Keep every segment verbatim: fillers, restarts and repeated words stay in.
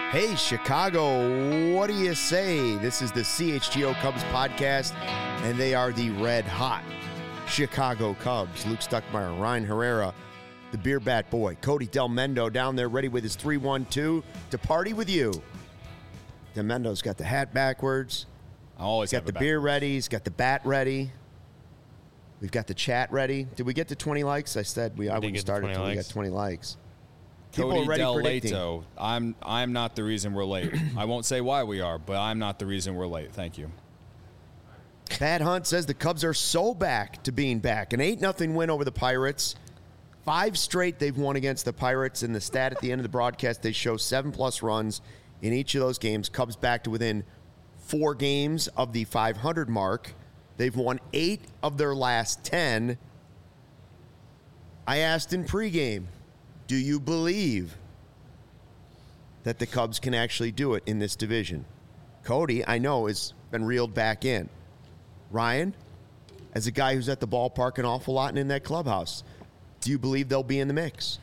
Hey, Chicago, what do you say? This is the C H G O Cubs podcast, and they are the red-hot Chicago Cubs. Luke Stuckmeyer, Ryan Herrera, the Beer Bat Boy, Cody Del Mendo down there ready with his three one two to party with you. Del Mendo's got the hat backwards. I always got the beer ready. He's got the bat ready. We've got the chat ready. Did we get to twenty likes? I said we, I wouldn't start until we got twenty likes. People Cody are ready Del predicting. Leto. I'm I'm not the reason we're late. I won't say why we are, but I'm not the reason we're late. Thank you. Pat Hunt says the Cubs are so back to being back. An eight nothing win over the Pirates. Five straight they've won against the Pirates. In the stat at the end of the broadcast, they show seven-plus runs in each of those games. Cubs back to within four games of the five hundred mark. They've won eight of their last ten. I asked in pregame, do you believe that the Cubs can actually do it in this division? Cody, I know, has been reeled back in. Ryan, as a guy who's at the ballpark an awful lot and in that clubhouse, do you believe they'll be in the mix?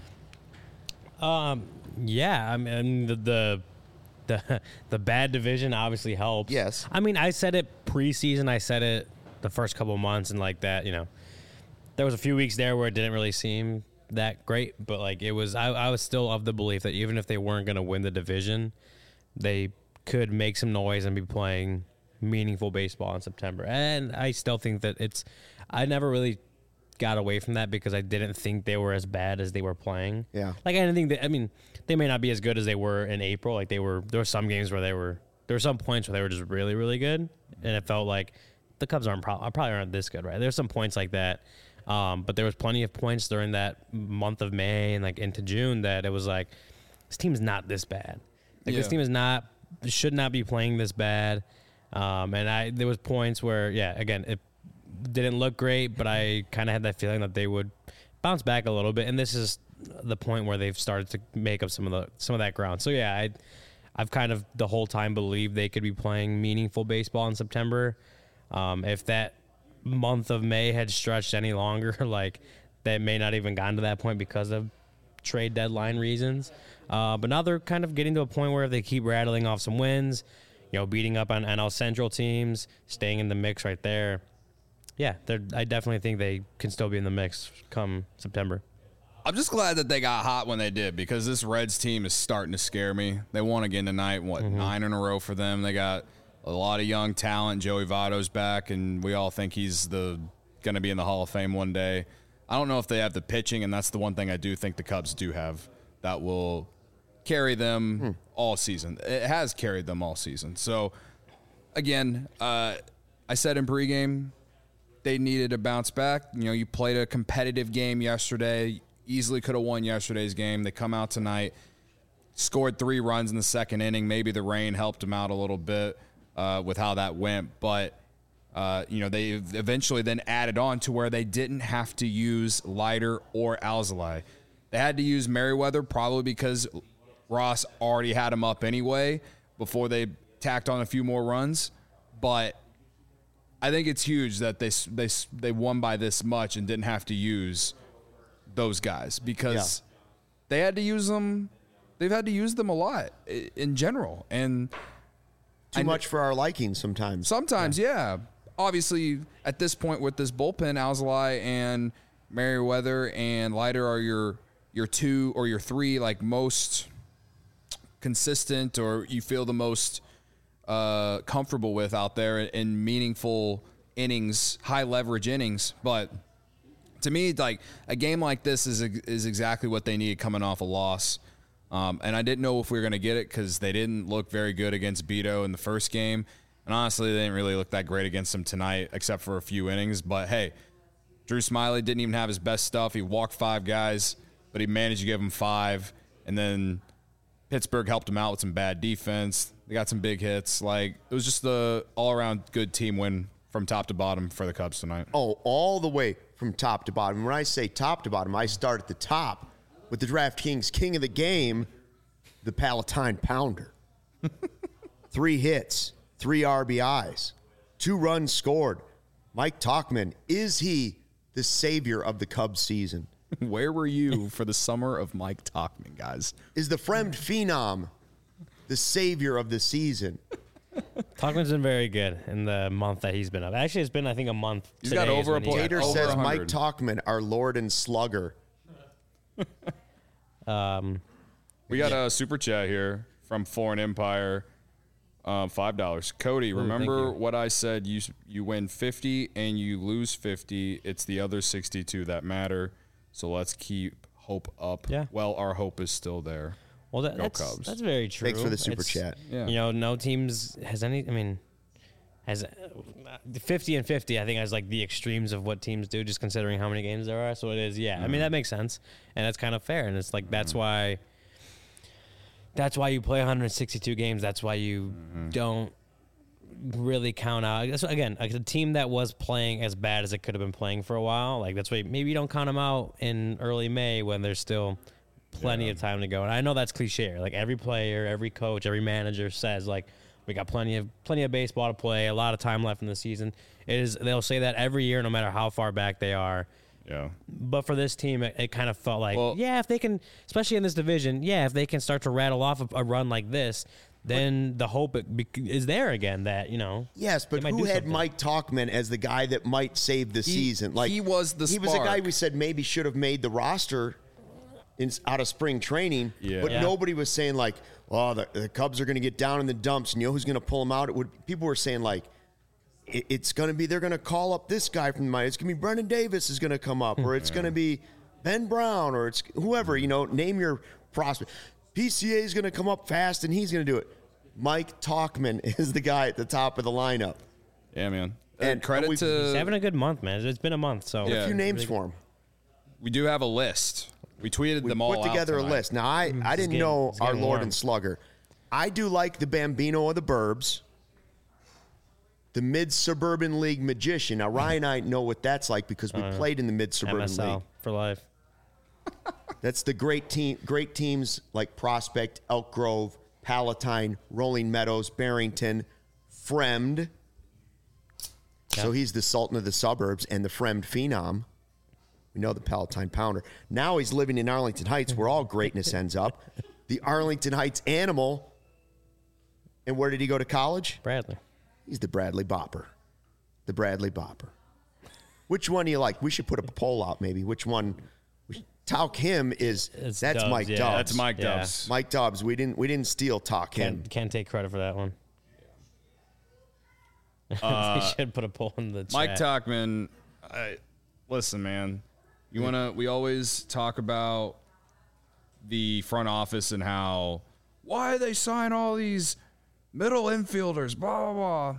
Um, yeah, I mean, the, the the the bad division obviously helps. Yes. I mean, I said it preseason. I said it the first couple of months, and like that, you know, there was a few weeks there where it didn't really seem that great, but like it was, I, I was still of the belief that even if they weren't going to win the division, they could make some noise and be playing meaningful baseball in September. And I still think that it's, I never really got away from that because I didn't think they were as bad as they were playing. Yeah. Like I didn't think that, I mean, they may not be as good as they were in April. Like they were, there were some games where they were, there were some points where they were just really, really good. And it felt like the Cubs aren't pro- probably aren't this good, right? There's some points like that. Um, but there was plenty of points during that month of May and like into June that it was like, this team's not this bad. Like Yeah. this team is not, should not be playing this bad. Um, and I, there was points where, yeah, again, it didn't look great, but I kind of had that feeling that they would bounce back a little bit. And this is the point where they've started to make up some of the, some of that ground. So yeah, I, I've kind of the whole time believed they could be playing meaningful baseball in September. Um, if that month of May had stretched any longer, like that may not even gotten to that point because of trade deadline reasons. Uh, but now they're kind of getting to a point where if they keep rattling off some wins, you know, beating up on N L Central teams, staying in the mix right there. Yeah, I definitely think they can still be in the mix come September. I'm just glad that they got hot when they did because this Reds team is starting to scare me. They won again tonight, what, mm-hmm. nine in a row for them. They got a lot of young talent. Joey Votto's back, and we all think he's the going to be in the Hall of Fame one day. I don't know if they have the pitching, and that's the one thing I do think the Cubs do have that will carry them hmm. all season. It has carried them all season. So, again, uh, I said in pregame they needed to bounce back. You know, you played a competitive game yesterday, easily could have won yesterday's game. They come out tonight, scored three runs in the second inning. Maybe the rain helped them out a little bit. Uh, with how that went, but uh, you know they eventually then added on to where they didn't have to use Leiter or Alzolay. They had to use Merriweather probably because Ross already had him up anyway before they tacked on a few more runs. But I think it's huge that they they they won by this much and didn't have to use those guys because yeah. they had to use them. They've had to use them a lot in general and. Too much for our liking sometimes. Sometimes, yeah. yeah. Obviously, at this point with this bullpen, Alzolay and Merriweather and Leiter are your your two or your three like most consistent or you feel the most uh, comfortable with out there in meaningful innings, high leverage innings. But to me, like a game like this is is exactly what they needed coming off a loss. Um, and I didn't know if we were going to get it because they didn't look very good against Beto in the first game. And honestly, they didn't really look that great against him tonight except for a few innings. But, hey, Drew Smyly didn't even have his best stuff. He walked five guys, but he managed to give them five. And then Pittsburgh helped him out with some bad defense. They got some big hits. Like, it was just the all-around good team win from top to bottom for the Cubs tonight. Oh, all the way from top to bottom. When I say top to bottom, I start at the top. With the DraftKings king of the game, the Palatine Pounder. Three hits, three R B Is, two runs scored. Mike Tauchman, is he the savior of the Cubs season? Where were you for the summer of Mike Tauchman, guys? Is the Fremd Phenom the savior of the season. Talkman's been very good in the month that he's been up. Actually, it's been, I think, a month. He's got today is over when a he point. got- Gator over says one Mike hundred. Talkman, our Lord and Slugger. Um, We got a super chat here from Foreign Empire, um, five dollars. Cody, thank remember you. what I said? You you win fifty and you lose fifty. It's the other sixty-two that matter. So let's keep hope up. Yeah. Well, our hope is still there. well, that, Go that's Cubs. that's very true. Thanks for the super It's- chat. Yeah. You know, no teams has any. I mean, has uh, fifty and fifty. I think as like the extremes of what teams do, just considering how many games there are. So it is. Yeah, I mean that makes sense, and that's kind of fair. And it's like that's why. That's why you play one hundred sixty-two games. That's why you don't really count out. That's, again, like a team that was playing as bad as it could have been playing for a while. Like that's why maybe you don't count them out in early May when there's still plenty Yeah. of time to go. And I know that's cliche. Like every player, every coach, every manager says like we got plenty of plenty of baseball to play, a lot of time left in the season. It is they'll say that every year, no matter how far back they are. Yeah. But for this team, it, it kind of felt like, Well- yeah, if they can, especially in this division, yeah, if they can start to rattle off a, a run like this, then the hope it bec- is there again that, you know. Yes, but they might who do had something. Mike Talkman as the guy that might save the season? Like he was the he was a guy spark. we said maybe should have made the roster in, out of spring training. Yeah. But Yeah. nobody was saying like, oh, the, the Cubs are going to get down in the dumps, and you know who's going to pull them out? It would. People were saying like, it, it's going to be they're going to call up this guy from the minor. It's going to be Brendan Davis is going to come up, or it's going to be Ben Brown, or it's whoever. You know, name your prospect. P C A is going to come up fast, and he's going to do it. Mike Talkman is the guy at the top of the lineup. Yeah, man. And And credit we- to He's having a good month, man. It's been a month, so Yeah. A few names for him. we do have a list. We tweeted We them all put together out a tonight. list. Now, I, I didn't getting- know it's our getting Lord warm. and Slugger. I do like the Bambino of the Burbs, the Mid-Suburban League Magician. Now, Ryan and I know what that's like because we played in the M Mid-Suburban S League. L for life. That's the great team, great teams like Prospect, Elk Grove, Palatine, Rolling Meadows, Barrington, Fremd. So he's the Sultan of the suburbs and the Fremd Phenom. We know the Palatine Pounder. Now he's living in Arlington Heights, where all greatness ends up. The Arlington Heights Animal. And where did he go to college? Bradley. He's the Bradley Bopper. The Bradley Bopper. Which one do you like? We should put a poll out, maybe. Which one? Talk him is It's that's Dubs, Mike yeah. Dubs. That's Mike Yeah. Dubs. Mike Dubs. We didn't we didn't steal Talk him. Can't, can't take credit for that one. they should put a poll in the chat. Mike Talkman, I, listen, man. You wanna? We always talk about the front office and how why they sign all these middle infielders, blah blah blah.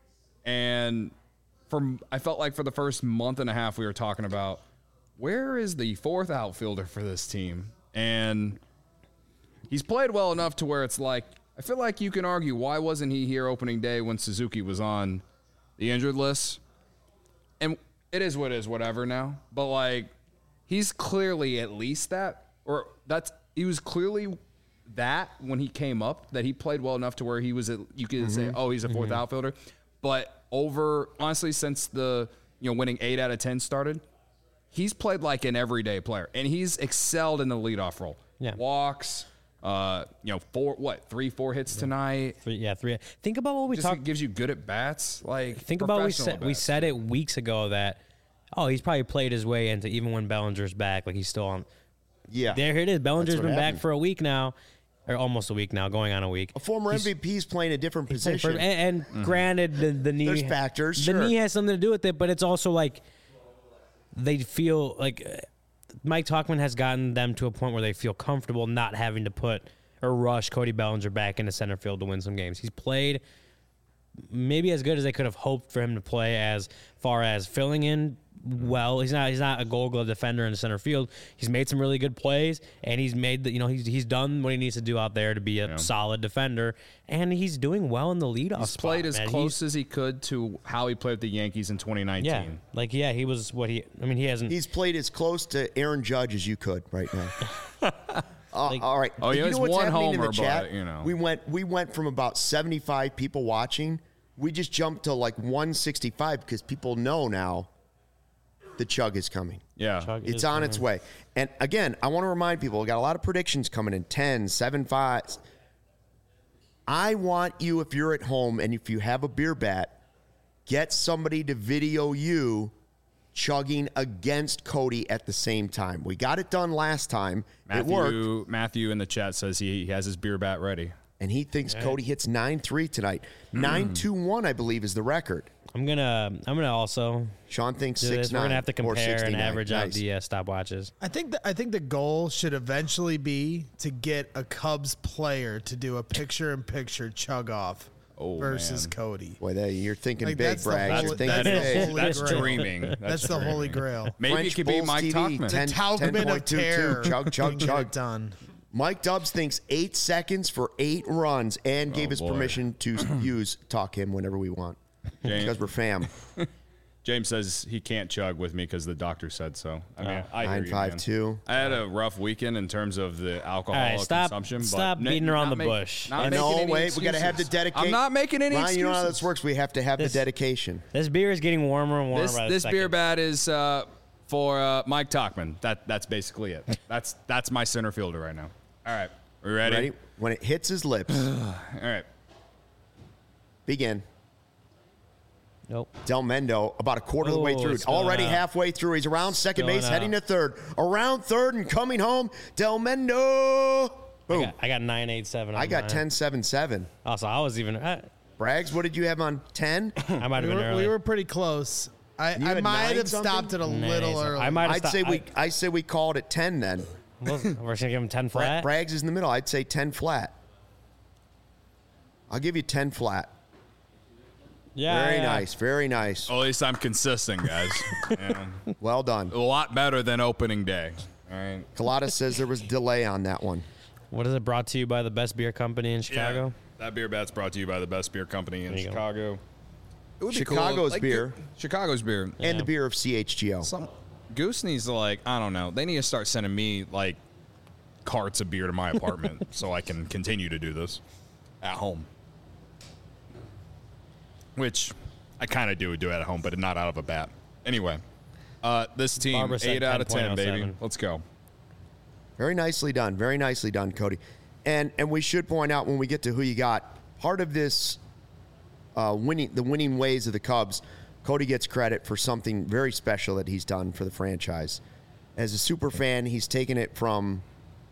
And from I felt like for the first month and a half we were talking about where is the fourth outfielder for this team, and he's played well enough to where it's like I feel like you can argue why wasn't he here opening day when Suzuki was on the injured list? And it is what it is, whatever now. But like, he's clearly at least that, or that's he was clearly that when he came up, that he played well enough to where he was. At, you could say, oh, he's a 4th outfielder. But over honestly, since the you know winning eight out of ten started, he's played like an everyday player, and he's excelled in the leadoff role. Yeah. Walks. Uh, you know, four what three, four hits tonight. Three, yeah, three. Think about what we Just talked. gives you good at bats. Like Think about what we professional said. We at-bats. said it weeks ago that oh, he's probably played his way into even when Bellinger's back. Like he's still on. Yeah. There it is. Bellinger's what been back happened. for a week now, or almost a week now, going on a week. A former He's- M V P is playing a different He's playing position. for- and and granted, the, the knee There's factors, The sure. knee has something to do with it, but it's also like they feel like uh, Mike Talkman has gotten them to a point where they feel comfortable not having to put or rush Cody Bellinger back into center field to win some games. He's played maybe as good as they could have hoped for him to play as far as filling in well. He's not he's not a Gold Glove defender in the center field. He's made some really good plays, and he's made the you know he's he's done what he needs to do out there to be a Yeah. solid defender, and he's doing well in the leadoff He's spot. played as man. close He's- as he could to how he played with the Yankees in twenty nineteen. yeah, like yeah, he was what he. I mean, he hasn't. He's played as close to Aaron Judge as you could right now. Uh, all right. Oh, he you has know what's one happening in homer, the chat? but, you know. We went we went from about seventy-five people watching. We just jumped to like one sixty-five because people know now the chug is coming. Yeah. Chug It's is on coming. its way. And again, I want to remind people, we got a lot of predictions coming in ten, seven, five. I want you, if you're at home and if you have a beer bat, get somebody to video you chugging against Cody at the same time. We got it done last time. Matthew, it worked. Matthew in the chat says he, he has his beer bat ready. And he thinks Right. Cody hits nine three tonight. nine two one, I believe, is the record. I'm gonna I'm gonna also Sean thinks do six this. We're nine gonna have to or compare and sixty-nine. average out Nice. the uh, stopwatches. I think that I think the goal should eventually be to get a Cubs player to do a picture-in-picture chug off Oh, versus man. Cody. Boy, that, you're thinking Like, big, that's the Bragg. holy- You're thinking that's the big. holy That's grail. dreaming. That's, That's the holy dreaming. grail. Maybe French it could be Bulls Mike T V, Tuchman. The ten- Taubman of 10.22, terror. chug, chug, can get chug. it done. Mike Dubs thinks eight seconds for eight runs and gave Oh, us boy. permission to use talk him whenever we want James, because we're fam. James says he can't chug with me because the doctor said so. I mean, I hear Nine you, five man. two. I had a rough weekend in terms of the alcohol All right, stop- consumption. stop but beating n- around not the make- bush. not I making know. any Wait, we got to have the excuses. dedication. I'm not making any Ryan, excuses. you know how this works. We have to have This- the dedication. This beer is getting warmer and warmer This by the this beer second. bat is uh, for uh, Mike Tuchman. That that's basically it. That's that's my center fielder right now. All right, we ready? Ready? When it hits his lips, All right. begin. Nope. Del Mendo, about a quarter of the way Oh, through. it's spilling Already out. halfway through. He's around second Spilling base, heading to out. third. Around third and coming home. Del Mendo. I Boom. got, I got nine eight seven. I got ten seven seven. Also, I was even. I, Braggs, what did you have on ten? I might have We been were, early. we were pretty close. I, You I had might nine have something? stopped it a Nice. little early. I might have I'd stopped. say we I, I say we called it ten then. we're gonna give him ten Bra- flat. Braggs is in the middle. I'd say ten flat. I'll give you ten flat. yeah. Very yeah. nice. Very nice. Well, at least I'm consistent, guys. Yeah. Well done. A lot better than opening day. All right. Colada says there was delay on that one. What is it brought to you by the best beer company in Chicago? Yeah. That beer bat's brought to you by the best beer company in There you go. Chicago. It would be cool. Chicago's Like, beer. Chicago's beer. And Yeah. the beer of C H G O. Some Goose needs to like I don't know. They need to start sending me like carts of beer to my apartment so I can continue to do this at home. Which I kind of do do at home, but not out of a bat. Anyway, uh, this team Barbara said eight out of ten, baby. ten point oh seven. Let's go. Very nicely done. Very nicely done, Cody. And and we should point out when we get to who you got, part of this uh, winning the winning ways of the Cubs, Cody gets credit for something very special that he's done for the franchise. As a super fan, he's taken it from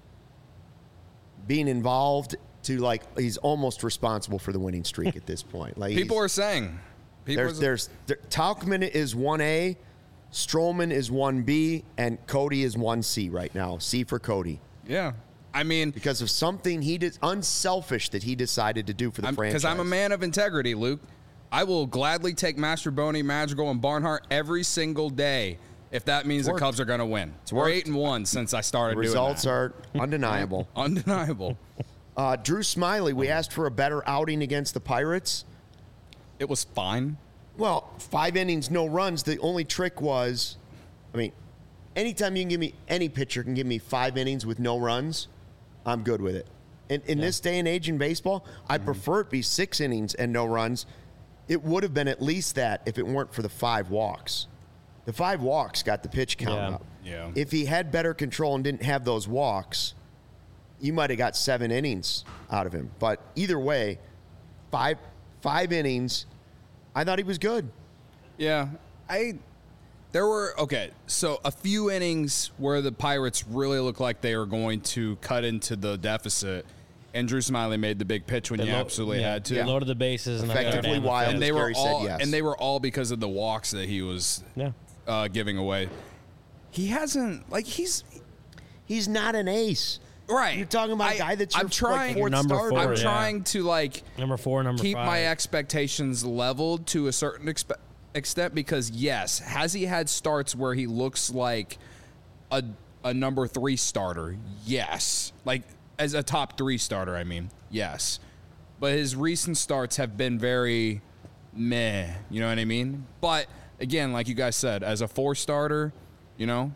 being involved to like he's almost responsible for the winning streak at this point. Like People he's- are saying. People there's are, there's there, Tauchman is one A, Stroman is one B, and Cody is one C right now. C for Cody. yeah. I mean, Because of something he did unselfish that he decided to do for the franchise. because I'm a man of integrity, Luke. I will gladly take Mastroboni, Madrigal, and Barnhart every single day if that means the worked. Cubs are going to win. We're worked. eight and one since I started The results doing are undeniable. that. Undeniable. Uh, Drew Smiley, we asked for a better outing against the Pirates. It was fine. Well, five innings, no runs. The only trick was, I mean, anytime you can give me, any pitcher can give me five innings with no runs, I'm good with it. In, in this day and age in baseball, I prefer it be six innings and no runs. It would have been at least that if it weren't for the five walks. The five walks got the pitch count Yeah. up. Yeah. If he had better control and didn't have those walks, you might have got seven innings out of him. But either way, five five innings, I thought he was good. Yeah, I. There were okay, so a few innings where the Pirates really looked like they were going to cut into the deficit, and Drew Smiley made the big pitch when They you lo- absolutely yeah, had to. they loaded the bases and Effectively then wild. and they as were Gary said, all yes. and they were all because of the walks that he was Yeah. uh, giving away. He hasn't like he's He's not an ace. right. You're talking about a I- guy that's I'm your trying. like, fourth Number starter. four, I'm yeah. trying to like Number four, number keep five. my expectations leveled to a certain expe- extent because yes, has he had starts where he looks like a a number three starter? Yes, like as a top three starter. I mean, yes, but his recent starts have been very meh. You know what I mean? But again, like you guys said, as a four starter, you know.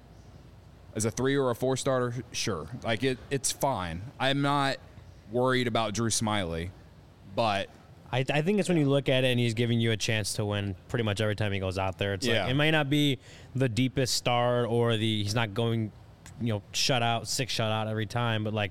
As a three or a four starter, sure. Like it, it's fine. I'm not worried about Drew Smiley, but I, I think it's when you look at it and he's giving you a chance to win pretty much every time he goes out there. It's Yeah. like it may not be the deepest start or the he's not going, you know, shut out six shutout every time, but like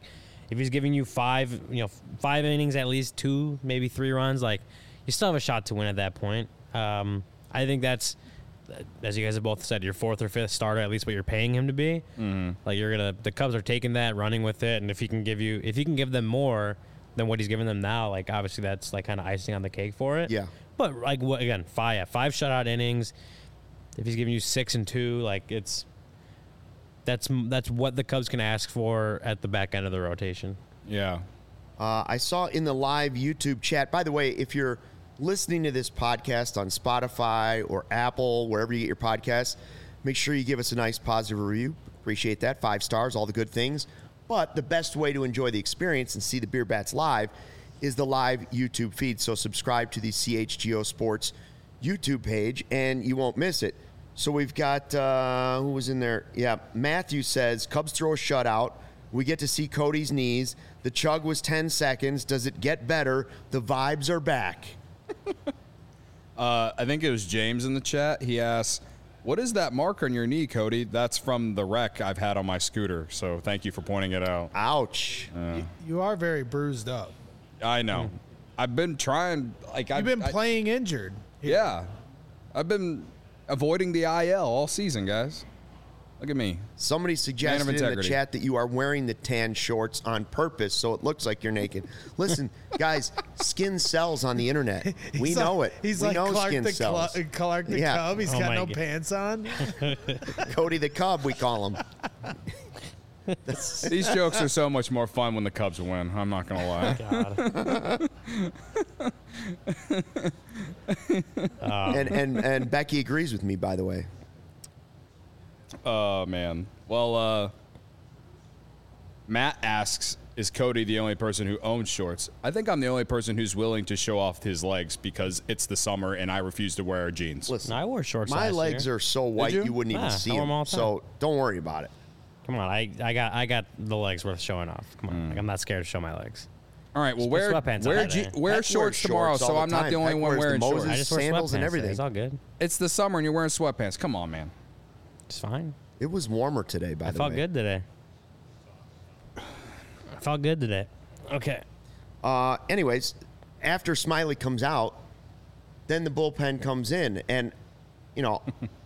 if he's giving you five, you know, five innings, at least two, maybe three runs, like you still have a shot to win at that point. Um, I think that's, as you guys have both said, your fourth or fifth starter, at least what you're paying him to be. Mm-hmm. Like you're gonna, the Cubs are taking that, running with it, and if he can give you, if he can give them more than what he's giving them now, like obviously that's like kind of icing on the cake for it. Yeah. But like what again, five, yeah, five shutout innings. If he's giving you six and two, like it's, that's that's what the Cubs can ask for at the back end of the rotation. Yeah. Uh, I saw in the live YouTube chat, by the way, if you're listening to this podcast on Spotify or Apple, wherever you get your podcasts, make sure you give us a nice positive review. Appreciate that. Five stars, all the good things. But the best way to enjoy the experience and see the Beer Bats live is the live YouTube feed. So subscribe to the C H G O Sports YouTube page and you won't miss it. So we've got, uh, who was in there? Yeah, Matthew says, Cubs throw a shutout. We get to see Cody's knees. The chug was ten seconds. Does it get better? The vibes are back. uh, I think it was James in the chat. He asks, what is that mark on your knee, Cody? That's from the wreck I've had on my scooter. So thank you for pointing it out. Ouch. Uh, You are very bruised up. I know. I've been trying. Like You've I've been I- playing injured. Yeah. I've been avoiding the I L all season, guys. Look at me. Somebody suggested in the integrity. chat that you are wearing the tan shorts on purpose so it looks like you're naked. Listen, guys, skin sells on the internet. We He's know like, it. He's we like know Clark skin the, sells. Cl- Clark the Yeah. Cub. He's Oh got my no God. pants on. Cody the Cub, we call him. These jokes are so much more fun when the Cubs win. I'm not going to lie. God. And, and, and Becky agrees with me, by the way. Oh, man. Well, uh, Matt asks, is Cody the only person who owns shorts? I think I'm the only person who's willing to show off his legs because it's the summer and I refuse to wear jeans. Listen, No, I wore shorts my last legs year. are so white you? you? wouldn't even Yeah, see I wear 'em them. all the So don't worry about it. Come on, I, I got I got the legs worth showing off. Come on, Hmm. like, I'm not scared to show my legs. All right, well, Just wear, put sweatpants on wear, that je- day. wear Heck shorts wears tomorrow, shorts all so the I'm not time. the only Heck one wears the wearing Moses shorts. I just wear sandals and sweatpants. everything. It's all good. It's the summer and you're wearing sweatpants. Come on, man. It's fine. It was warmer today, by I the felt way. good today. I felt good today. Okay. Uh, anyways, after Smiley comes out, then the bullpen comes in. And, you know,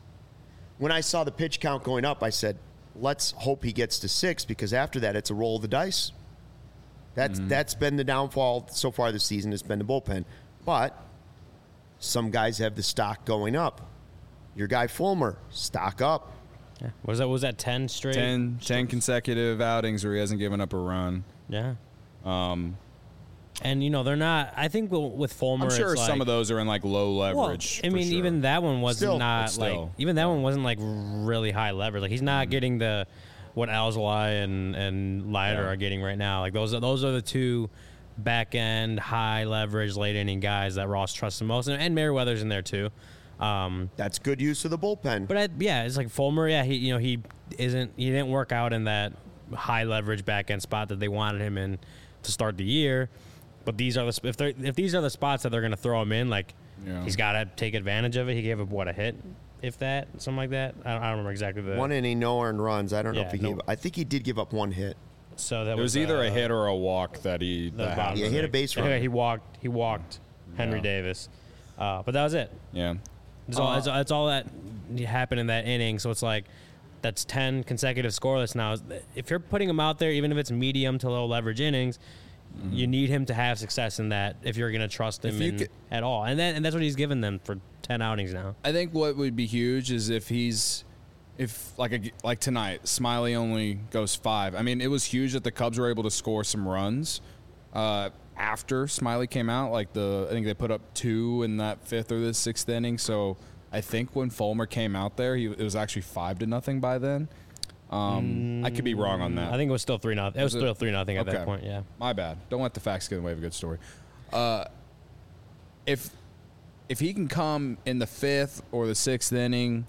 when I saw the pitch count going up, I said, let's hope he gets to six because after that, it's a roll of the dice. That's That's been the downfall so far this season. It's been the bullpen. But some guys have the stock going up. Your guy Fulmer, stock up. Yeah. Was that was that ten straight? ten, ten consecutive outings where he hasn't given up a run. Yeah. Um. And you know they're not. I think with- with Fulmer, I'm sure it's some like, of those are in like low Well, leverage. I for mean, sure. even that one was Still, not but like still. even that one wasn't like really high leverage. Like he's not Mm-hmm. getting the what Alzolay and and Leiter Yeah. are getting right now. Like those are those are the two back end high leverage late inning guys that Ross trusts the most, and, and Merriweather's in there too. Um, That's good use of the bullpen. but I, yeah, it's like Fulmer. Yeah, he you know he isn't he didn't work out in that high leverage back end spot that they wanted him in to start the year. But these are the sp- if they if these are the spots that they're going to throw him in, like Yeah. he's got to take advantage of it. He gave up what a hit, if that, something like that. I don't, I don't remember exactly the one inning, no earned runs. I don't know Yeah, if he no- gave. I think he did give up one hit. So that It was either uh, a hit or a walk that he the that bottom happened. Yeah, of he hit the- a base Yeah, run. He walked. He walked Henry Yeah. Davis, uh, but that was it. Yeah. That's all. Uh, That's, all- that's all that happened in that inning. So it's like that's ten consecutive scoreless now. If you're putting him out there, even if it's medium to low leverage innings, you need him to have success in that if you're going to trust him If you in, could- at all. And then and that's what he's given them for ten outings now. I think what would be huge is if he's, if like a, like tonight, Smiley only goes five. I mean, it was huge that the Cubs were able to score some runs uh, after Smiley came out. Like the, I think they put up two in that fifth or the sixth inning. So I think when Fulmer came out there, he it was actually five to nothing by then. Um, I could be wrong on that. I think it was still three nothing. It was Was it? still three nothing at Okay. that point. Yeah. My bad. Don't let the facts get in the way of a good story. Uh, if if he can come in the fifth or the sixth inning,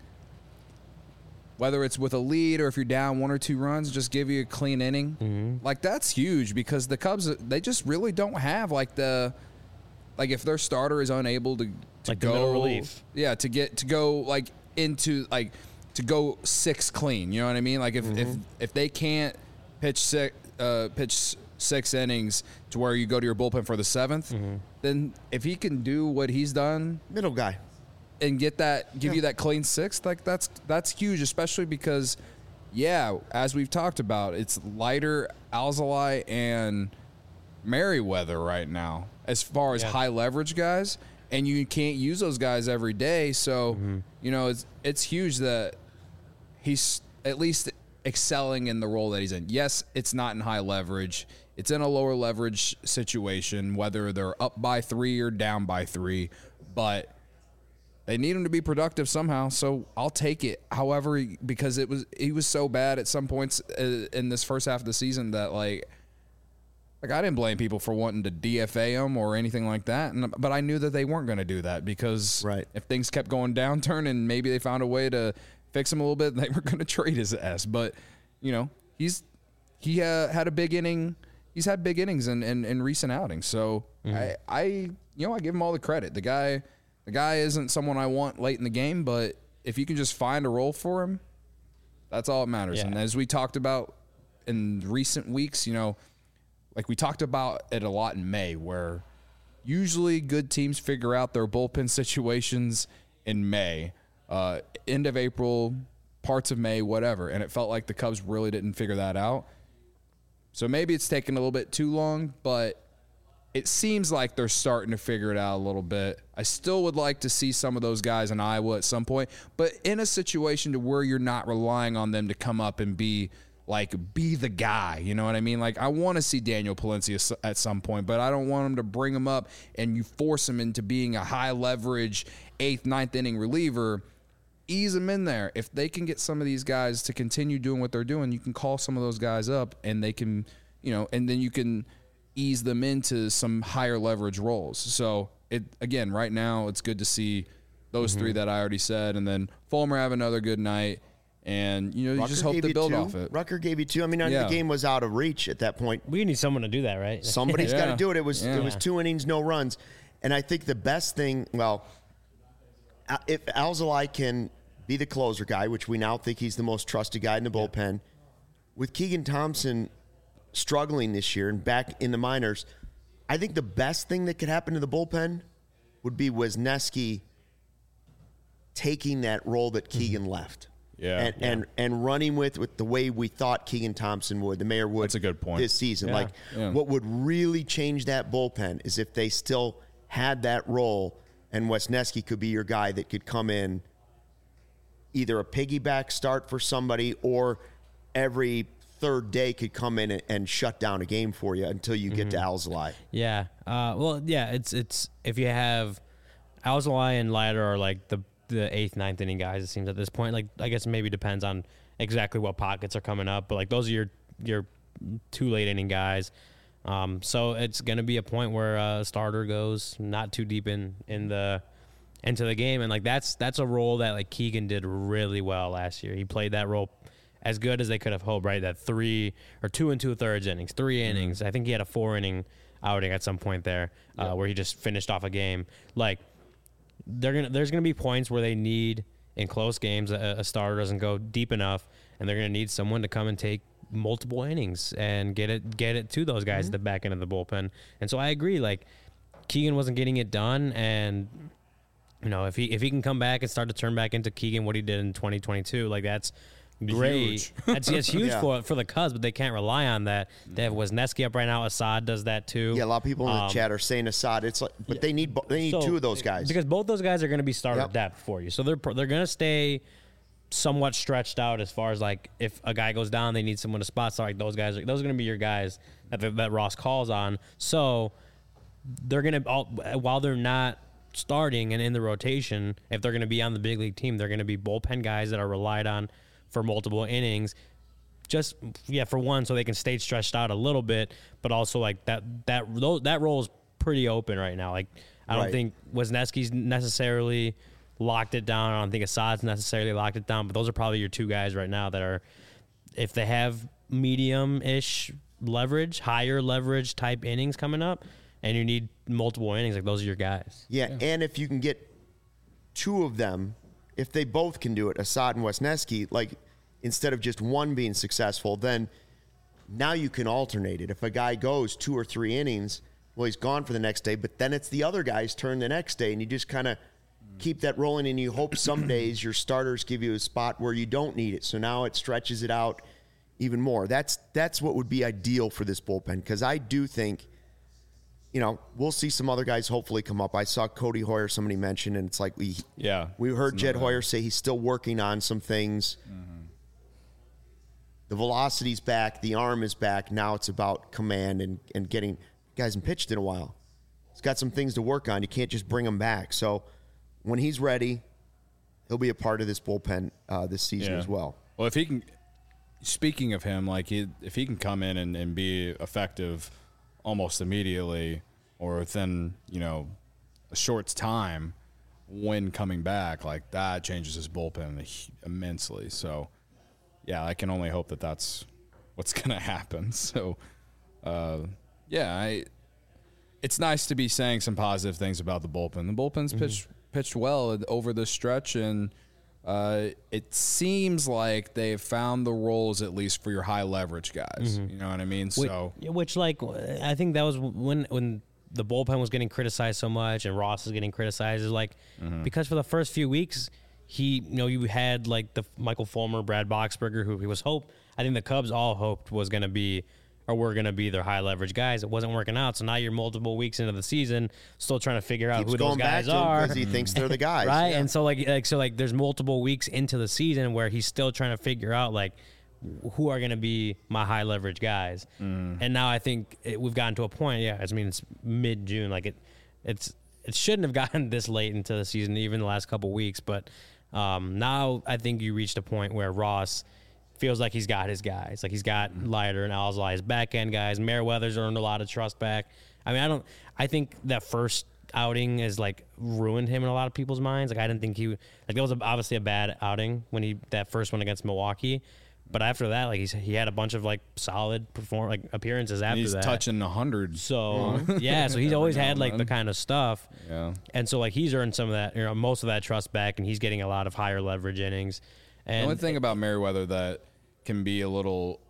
whether it's with a lead or if you're down one or two runs, just give you a clean inning, Mm-hmm. like that's huge because the Cubs they just really don't have like the like if their starter is unable to, to Like the go middle relief. yeah, to get to go like into like to go six clean. You know what I mean? Like if if, if they can't pitch six, uh, pitch six innings to where you go to your bullpen for the seventh, mm-hmm. then if he can do what he's done, middle guy, and get that, give yeah. you that clean sixth, like that's that's huge, especially because, yeah, as we've talked about, it's Leiter, Alzolay, and Merriweather right now as far as yeah. high leverage guys, and you can't use those guys every day. So, mm-hmm. you know, it's it's huge that he's at least excelling in the role that he's in. Yes, it's not in high leverage. It's in a lower leverage situation, whether they're up by three or down by three, but they need him to be productive somehow. So I'll take it. However, because it was he was so bad at some points in this first half of the season that like, like I didn't blame people for wanting to D F A him or anything like that. And, but I knew that they weren't going to do that because right. if things kept going downturn and maybe they found a way to fix him a little bit, they were going to trade his ass. But, you know, he's he uh, had a big inning. He's had big innings in, in, in recent outings. So mm-hmm. I, I, you know, I give him all the credit. The guy, the guy isn't someone I want late in the game, but if you can just find a role for him, that's all that matters. Yeah. And as we talked about in recent weeks, you know, like we talked about it a lot in May, where usually good teams figure out their bullpen situations in May, uh, end of April, parts of May, whatever. And it felt like the Cubs really didn't figure that out. So maybe it's taken a little bit too long, but it seems like they're starting to figure it out a little bit. I still would like to see some of those guys in Iowa at some point, but in a situation to where you're not relying on them to come up and be like, be the guy, you know what I mean? Like, I want to see Daniel Palencia at some point, but I don't want him to bring him up and you force him into being a high-leverage eighth, ninth inning reliever. Ease them in there. If they can get some of these guys to continue doing what they're doing, you can call some of those guys up and they can, you know, and then you can ease them into some higher leverage roles. So, it again, right now, it's good to see those mm-hmm. three that I already said, and then Fulmer have another good night. And, you know, you Rucker just hope to build two. off it. Rucker gave you two. I mean, yeah. the game was out of reach at that point. We need someone to do that, right? Somebody's yeah. got to do it. It was yeah. it was two innings, no runs. And I think the best thing, well, if Alzolay can be the closer guy, which we now think he's the most trusted guy in the bullpen, yeah. with Keegan Thompson struggling this year and back in the minors, I think the best thing that could happen to the bullpen would be Wisniewski taking that role that Keegan mm-hmm. left. Yeah, and, yeah. and and running with, with the way we thought Keegan Thompson would, the mayor would. That's a good point. This season. Yeah. Like, yeah. what would really change that bullpen is if they still had that role and Wisniewski could be your guy that could come in, either a piggyback start for somebody or every third day could come in and, and shut down a game for you until you get mm-hmm. to Alzolay. Yeah. Uh, well, yeah, it's it's if you have Alzolay and Leiter are like the the eighth, ninth inning guys, it seems at this point. Like, I guess maybe depends on exactly what pockets are coming up, but like those are your your two late inning guys. Um, so it's going to be a point where a starter goes not too deep in in the into the game, and like that's that's a role that like Keegan did really well last year. He played that role as good as they could have hoped, right? That three or two and two thirds innings, three mm-hmm. innings. I think he had a four inning outing at some point there, uh, yep. where he just finished off a game. Like, they're gonna there's gonna be points where they need in close games a, a starter doesn't go deep enough, and they're gonna need someone to come and take multiple innings and get it get it to those guys mm-hmm. at the back end of the bullpen. And so I agree, like Keegan wasn't getting it done, and you know if he if he can come back and start to turn back into Keegan what he did in twenty twenty-two, like that's great. Huge. That's, that's huge yeah. for for the Cubs, but they can't rely on that. They have Wisniewski up right now. Assad does that too. Yeah, a lot of people in the um, chat are saying Assad. It's like, but yeah. they need they need so, two of those guys because both those guys are going to be starter yep. depth for you. So they're they're going to stay somewhat stretched out as far as like if a guy goes down, they need someone to spot. So like those guys, are, those are going to be your guys that that Ross calls on. So they're going to while they're not starting and in the rotation, if they're going to be on the big league team, they're going to be bullpen guys that are relied on for multiple innings, just yeah, for one, so they can stay stretched out a little bit, but also like that that that role is pretty open right now. Like I don't right. think Wisniewski's necessarily locked it down. I don't think Assad's necessarily locked it down, but those are probably your two guys right now that are, if they have medium-ish leverage, higher leverage type innings coming up, and you need multiple innings, like those are your guys. Yeah, yeah. And if you can get two of them. If they both can do it, Assad and Wisniewski, like instead of just one being successful, then Now you can alternate it. If a guy goes two or three innings, well, he's gone for the next day, but then it's the other guy's turn the next day, and you just kind of keep that rolling, and you hope some days your starters give you a spot where you don't need it. So now it stretches it out even more. That's that's what would be ideal for this bullpen, because I do think, you know, we'll see some other guys hopefully come up. I saw Cody Hoyer, somebody mentioned, and it's like we yeah we heard Jed Hoyer say he's still working on some things. Mm-hmm. The velocity's back, the arm is back. Now it's about command and, and getting he hasn't pitched in a while. He's got some things to work on. You can't just bring him back. So when he's ready, he'll be a part of this bullpen uh, this season yeah. as well. Well, if he can, speaking of him, like he, if he can come in and, and be effective almost immediately or within, you know, a short time when coming back, like that changes his bullpen immensely. So, yeah, I can only hope that that's what's going to happen. So, uh, yeah, I. It's nice to be saying some positive things about the bullpen. The bullpen's mm-hmm. pitched pitched well over this stretch, and uh, it seems like they've found the roles at least for your high leverage guys. Mm-hmm. You know what I mean? Which, so, which like I think that was when when the bullpen was getting criticized so much, and Ross is getting criticized. Is like mm-hmm. because for the first few weeks. He, you know, you had like the Michael Fulmer, Brad Boxberger, who he was hope. I think the Cubs all hoped was going to be, or were going to be their high leverage guys. It wasn't working out, so now you're multiple weeks into the season, still trying to figure out Keeps who those guys back are because he thinks they're the guys, right? Yeah. And so like, like so like, there's multiple weeks into the season where he's still trying to figure out like who are going to be my high leverage guys. Mm. And now I think it, we've gotten to a point. Yeah, I mean it's mid June, like it, it's it shouldn't have gotten this late into the season, even the last couple weeks, but. Um, now I think you reached a point where Ross feels like he's got his guys. Like he's got Leiter and Alzolay, his back end guys. Meriwether's earned a lot of trust back. I mean, I don't. I think that first outing has like ruined him in a lot of people's minds. Like I didn't think he like that was obviously a bad outing when he that first one against Milwaukee. But after that, like he's, he had a bunch of like solid perform like appearances after he's that. He's touching a hundred. So yeah, so he's always had like the kind of stuff. Yeah. And so like he's earned some of that, you know, most of that trust back, and he's getting a lot of higher leverage innings. And the only thing about Meriwether that can be a little,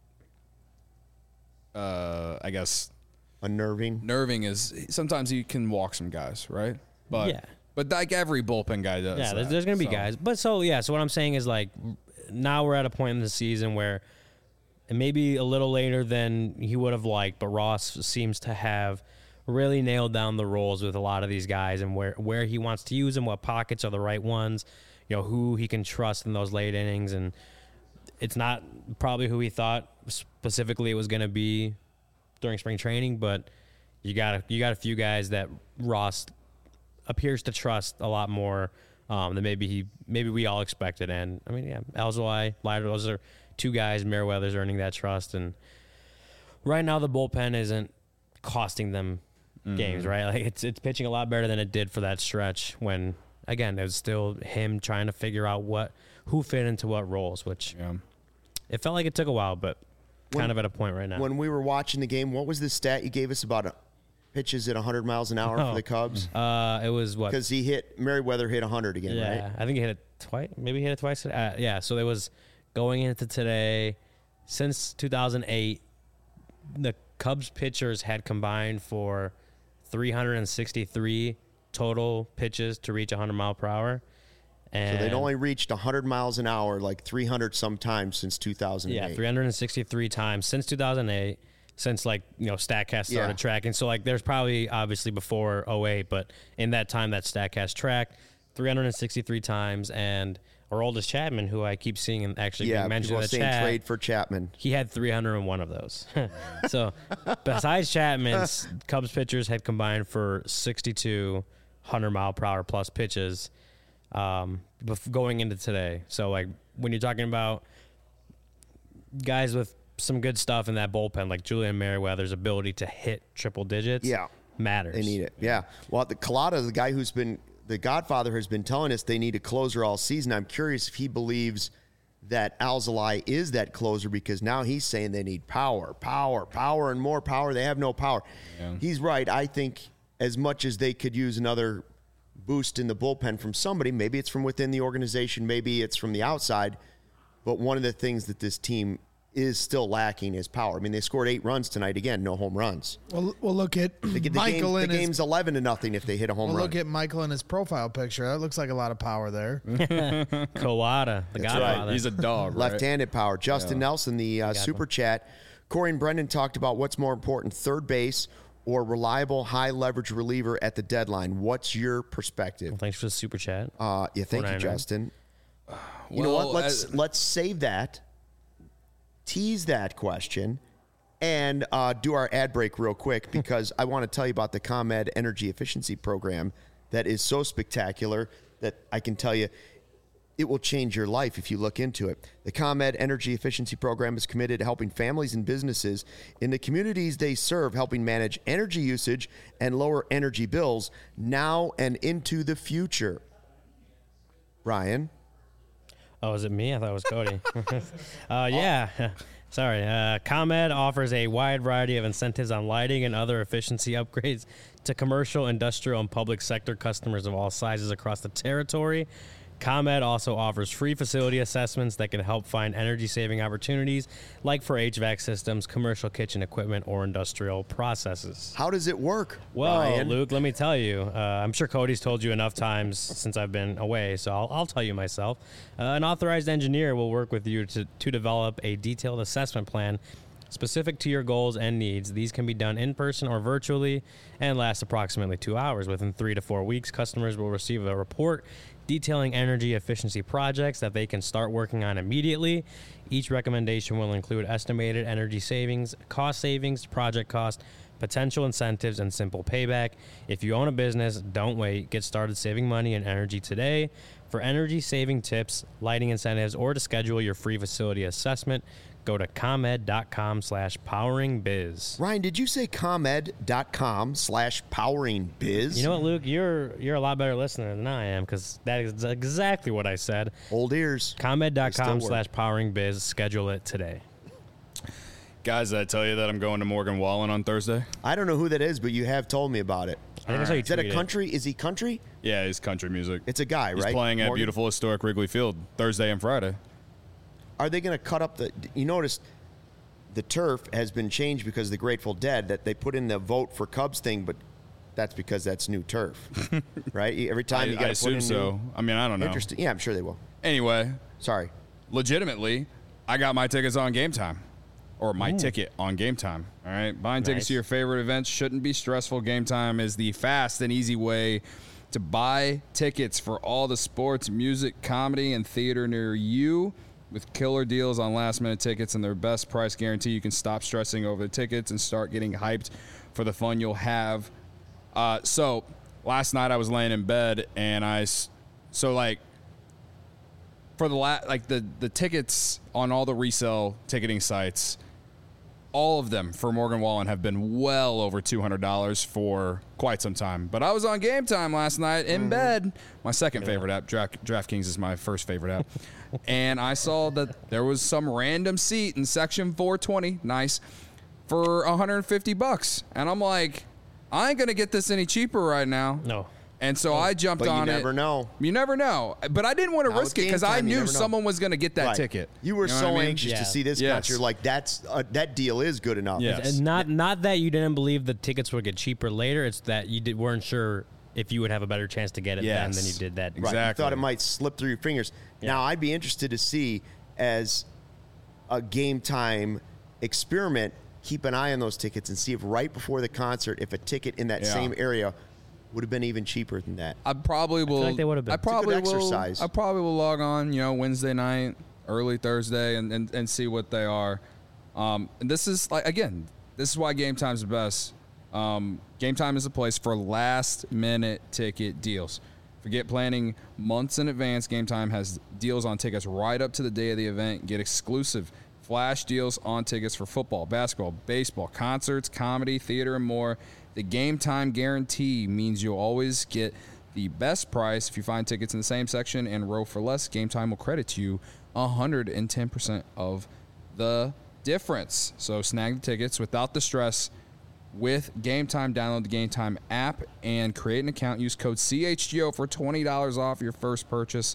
uh, I guess, unnerving. Nerving is sometimes he can walk some guys, right? But yeah. But like every bullpen guy does. Yeah, there's, that, there's gonna be so. guys. But so yeah, so what I'm saying is like. Now we're at a point in the season where it may be a little later than he would have liked, but Ross seems to have really nailed down the roles with a lot of these guys and where, where he wants to use them, what pockets are the right ones, you know, who he can trust in those late innings. And it's not probably who he thought specifically it was going to be during spring training, but you got a, you got a few guys that Ross appears to trust a lot more Um, that maybe he, maybe we all expected, and I mean, yeah, Alzolay, Leiter, those are two guys. Meriwether's earning that trust, and right now the bullpen isn't costing them mm-hmm. games, right? Like it's it's pitching a lot better than it did for that stretch when, again, it was still him trying to figure out what who fit into what roles, which yeah. it felt like it took a while, but when, kind of at a point right now. When we were watching the game, what was the stat you gave us about a, pitches at one hundred miles an hour oh. for the Cubs? Uh, it was what? Because he hit, Meriwether hit one hundred again, yeah, right? I think he hit it twice. Maybe he hit it twice. Uh, yeah, so it was going into today. Since two thousand eight, the Cubs pitchers had combined for three hundred sixty-three total pitches to reach one hundred mile per hour. And so they'd only reached one hundred miles an hour like three hundred sometimes since two thousand eight. Yeah, three hundred sixty-three times since two thousand eight. Since, like, you know, StatCast started yeah. tracking. So, like, there's probably, obviously, before oh eight, but in that time that StatCast tracked, three hundred sixty-three times. And Aroldis Chapman, who I keep seeing and actually yeah, being mentioned in the saying chat. trade for Chapman. He had three hundred one of those. So, besides Chapman's, Cubs pitchers had combined for sixty-two one hundred mile per hour plus pitches um, going into today. So, like, when you're talking about guys with some good stuff in that bullpen, like Julian Meriwether's ability to hit triple digits, yeah, matters. They need it. Yeah. Well, the Collada, the guy who's been the Godfather, has been telling us they need a closer all season. I'm curious if he believes that Alzolay is that closer, because now he's saying they need power, power, power, and more power. They have no power. Yeah. He's right. I think as much as they could use another boost in the bullpen from somebody, maybe it's from within the organization, maybe it's from the outside, but one of the things that this team is still lacking is power. I mean, they scored eight runs tonight again, no home runs. Well, we'll look at The, the, Michael game, in the his, game's eleven to nothing if they hit a home we'll run. look at Michael in his profile picture. That looks like a lot of power there. Kawada, the That's Godfather. right. He's a dog, right? Left-handed power. Justin Nelson, the uh, super chat. Corey and Brendan talked about what's more important, third base or reliable high-leverage reliever at the deadline. What's your perspective? Well, thanks for the super chat. Uh, yeah, thank you, forty-nine. Justin. You know Well, what? Let's I- let's save that, tease that question, and uh, do our ad break real quick because I want to tell you about the ComEd Energy Efficiency Program that is so spectacular that I can tell you it will change your life if you look into it. The ComEd Energy Efficiency Program is committed to helping families and businesses in the communities they serve, helping manage energy usage and lower energy bills now and into the future. Ryan? Oh, is it me? I thought it was Cody. uh, yeah. Sorry. Uh, ComEd offers a wide variety of incentives on lighting and other efficiency upgrades to commercial, industrial, and public sector customers of all sizes across the territory. ComEd also offers free facility assessments that can help find energy-saving opportunities, like for H V A C systems, commercial kitchen equipment, or industrial processes. How does it work, Well, Ryan? Luke, let me tell you. Uh, I'm sure Cody's told you enough times since I've been away, so I'll, I'll tell you myself. Uh, an authorized engineer will work with you to, to develop a detailed assessment plan specific to your goals and needs. These can be done in person or virtually and last approximately two hours. Within three to four weeks, customers will receive a report detailing energy efficiency projects that they can start working on immediately. Each recommendation will include estimated energy savings, cost savings, project cost, potential incentives, and simple payback. If you own a business, don't wait. Get started saving money and energy today. For energy saving tips, lighting incentives, or to schedule your free facility assessment, go to ComEd.com slash powering biz. Ryan, did you say ComEd.com slash powering biz? You know what, Luke? You're you're a lot better listener than I am because that is exactly what I said. Old ears. ComEd.com They still slash powering biz. Schedule it today. Guys, did I tell you that I'm going to Morgan Wallen on Thursday? I don't know who that is, but you have told me about it. I think I saw you Is that a tweet it. country? Is he country? Yeah, it's country music. It's a guy, He's right? playing at Morgan? beautiful historic Wrigley Field Thursday and Friday. Are they going to cut up the... You notice the turf has been changed because of the Grateful Dead, that they put in the vote for Cubs thing, but that's because that's new turf, right? Every time I, you I got to put assume in so. new... I mean, I don't know. Interesting. Yeah, I'm sure they will. Anyway, Sorry. legitimately, I got my tickets on Game Time. Or my Ooh. ticket on Game Time. All right. Buying tickets Nice. to your favorite events shouldn't be stressful. Game Time is the fast and easy way to buy tickets for all the sports, music, comedy, and theater near you. With killer deals on last minute tickets and their best price guarantee, you can stop stressing over the tickets and start getting hyped for the fun you'll have. Uh, so last night I was laying in bed and I, s- so like, for the la- like the the tickets on all the resale ticketing sites, all of them for Morgan Wallen have been well over two hundred dollars for quite some time. But I was on Game Time last night in bed, my second favorite app. Draft, DraftKings is my first favorite app. And I saw that there was some random seat in section four twenty, nice, for one hundred fifty bucks. And I'm like, I ain't going to get this any cheaper right now. No. And so I jumped But you on it. never know. You never know. But I didn't want to Now risk with it because Game I Time, you knew never know. someone was going to get that Right. ticket. You were know so what I mean? anxious Yeah. to see this Yes. concert. Like, that's uh, that deal is good enough. Yes. And not not that you didn't believe the tickets would get cheaper later. It's that you did, weren't sure if you would have a better chance to get it then Yes. than you did that. Right. You Exactly. thought it might slip through your fingers. Now, I'd be interested to see, as a Game Time experiment, keep an eye on those tickets and see if right before the concert, if a ticket in that Yeah. same area would have been even cheaper than that. I probably will. like they would have been. I It's a good probably will. exercise. I probably will log on, you know, Wednesday night, early Thursday, and, and, and see what they are. Um, and this is like again, this is why Game Time's the best. Um, Game Time is a place for last minute ticket deals. Forget planning months in advance. Game Time has deals on tickets right up to the day of the event. Get exclusive flash deals on tickets for football, basketball, baseball, concerts, comedy, theater, and more. The Game Time guarantee means you'll always get the best price. If you find tickets in the same section and row for less, Game Time will credit you one hundred ten percent of the difference. So snag the tickets without the stress with Game Time. Download the Game Time app and create an account. Use code C H G O for twenty dollars off your first purchase.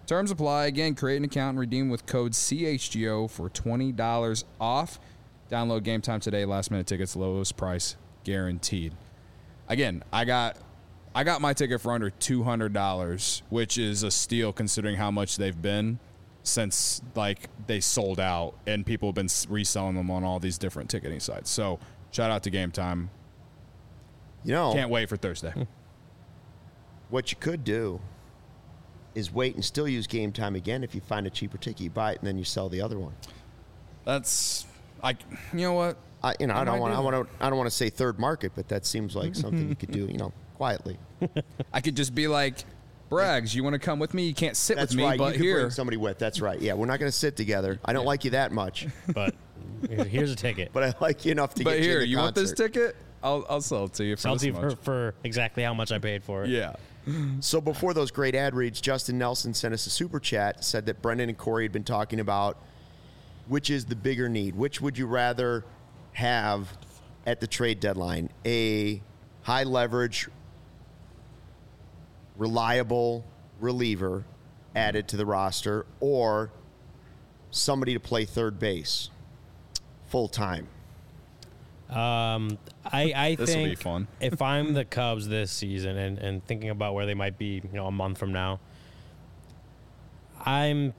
Terms apply. Again, create an account and redeem with code C H G O for twenty dollars off. Download Game Time today. Last minute tickets, lowest price guaranteed. Again, I got I got my ticket for under two hundred dollars, which is a steal considering how much they've been since like they sold out and people have been reselling them on all these different ticketing sites. So shout out to Game Time. You know, Can't wait for Thursday. what you could do is wait and still use Game Time again. If you find a cheaper ticket, you buy it and then you sell the other one. That's I. You know what? I, you know, I, I don't might want. do I that. want to. I don't want to say third market, but that seems like something you could do. You know, quietly. I could just be like, Braggs, you want to come with me? You can't sit That's with me, right. but you could here. bring somebody with. That's right. Yeah, we're not going to sit together. I don't like you that much, But here's a ticket. but I like you enough to But get here, you. in the you want this concert. ticket? I'll I'll sell it to you for Sell this to you much. for, for exactly how much I paid for it. Yeah. So before those great ad reads, Justin Nelson sent us a super chat, said that Brendan and Corey had been talking about which is the bigger need. Which would you rather have at the trade deadline? A high leverage, reliable reliever added to the roster, or somebody to play third base full time? Um, I, I This will think be fun. if I'm the Cubs this season and, and thinking about where they might be, you know, a month from now, I'm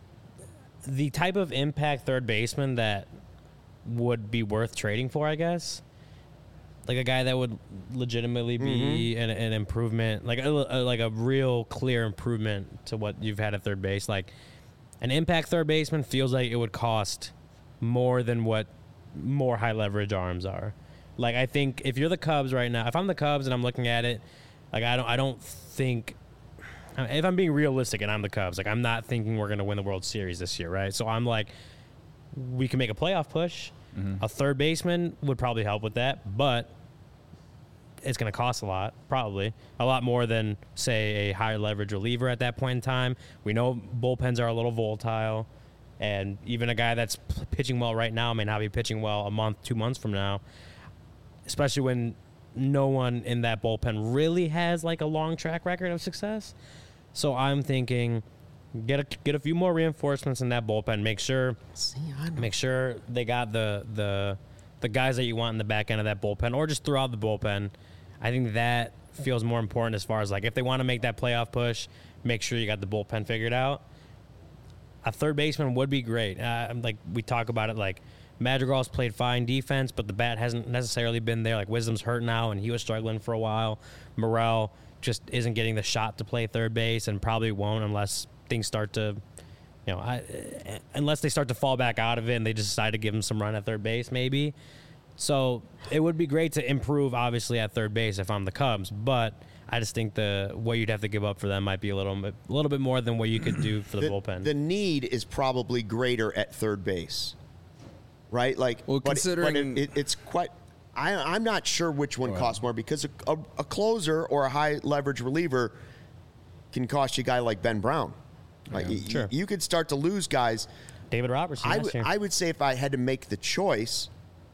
the type of impact third baseman that would be worth trading for, I guess. Like a guy that would legitimately be an, an improvement, like a, a like a real clear improvement to what you've had at third base. Like an impact third baseman feels like it would cost more than what more high leverage arms are. Like I think if you're the Cubs right now, if I'm the Cubs and I'm looking at it, like I don't I don't think if I'm being realistic and I'm the Cubs, like I'm not thinking we're going to win the World Series this year, right? So I'm like we can make a playoff push. Mm-hmm. A third baseman would probably help with that, but it's going to cost a lot, probably a lot more than say a higher leverage reliever at that point in time. We know bullpens are a little volatile. And even a guy that's p- pitching well right now may not be pitching well a month, two months from now, especially when no one in that bullpen really has like a long track record of success. So I'm thinking get a, get a few more reinforcements in that bullpen. Make sure See, I know. make sure they got the, the, the guys that you want in the back end of that bullpen or just throughout the bullpen. I think that feels more important as far as like if they want to make that playoff push, make sure you got the bullpen figured out. A third baseman would be great. Uh, like we talk about it, like Madrigal's played fine defense, but the bat hasn't necessarily been there. Like Wisdom's hurt now, and he was struggling for a while. Morel just isn't getting the shot to play third base, and probably won't unless things start to, you know, I, unless they start to fall back out of it and they just decide to give him some run at third base, maybe. So it would be great to improve, obviously, at third base if I'm the Cubs, but I just think the what you'd have to give up for them might be a little bit, a little bit more than what you could do for the, the bullpen. The need is probably greater at third base, right? Like, Well, but, considering- but it, it, it's quite. I, I'm not sure which one costs more because a, a, a closer or a high leverage reliever can cost you a guy like Ben Brown. Like, y- Sure. you could start to lose guys. David Robertson. I last would year. I would say if I had to make the choice,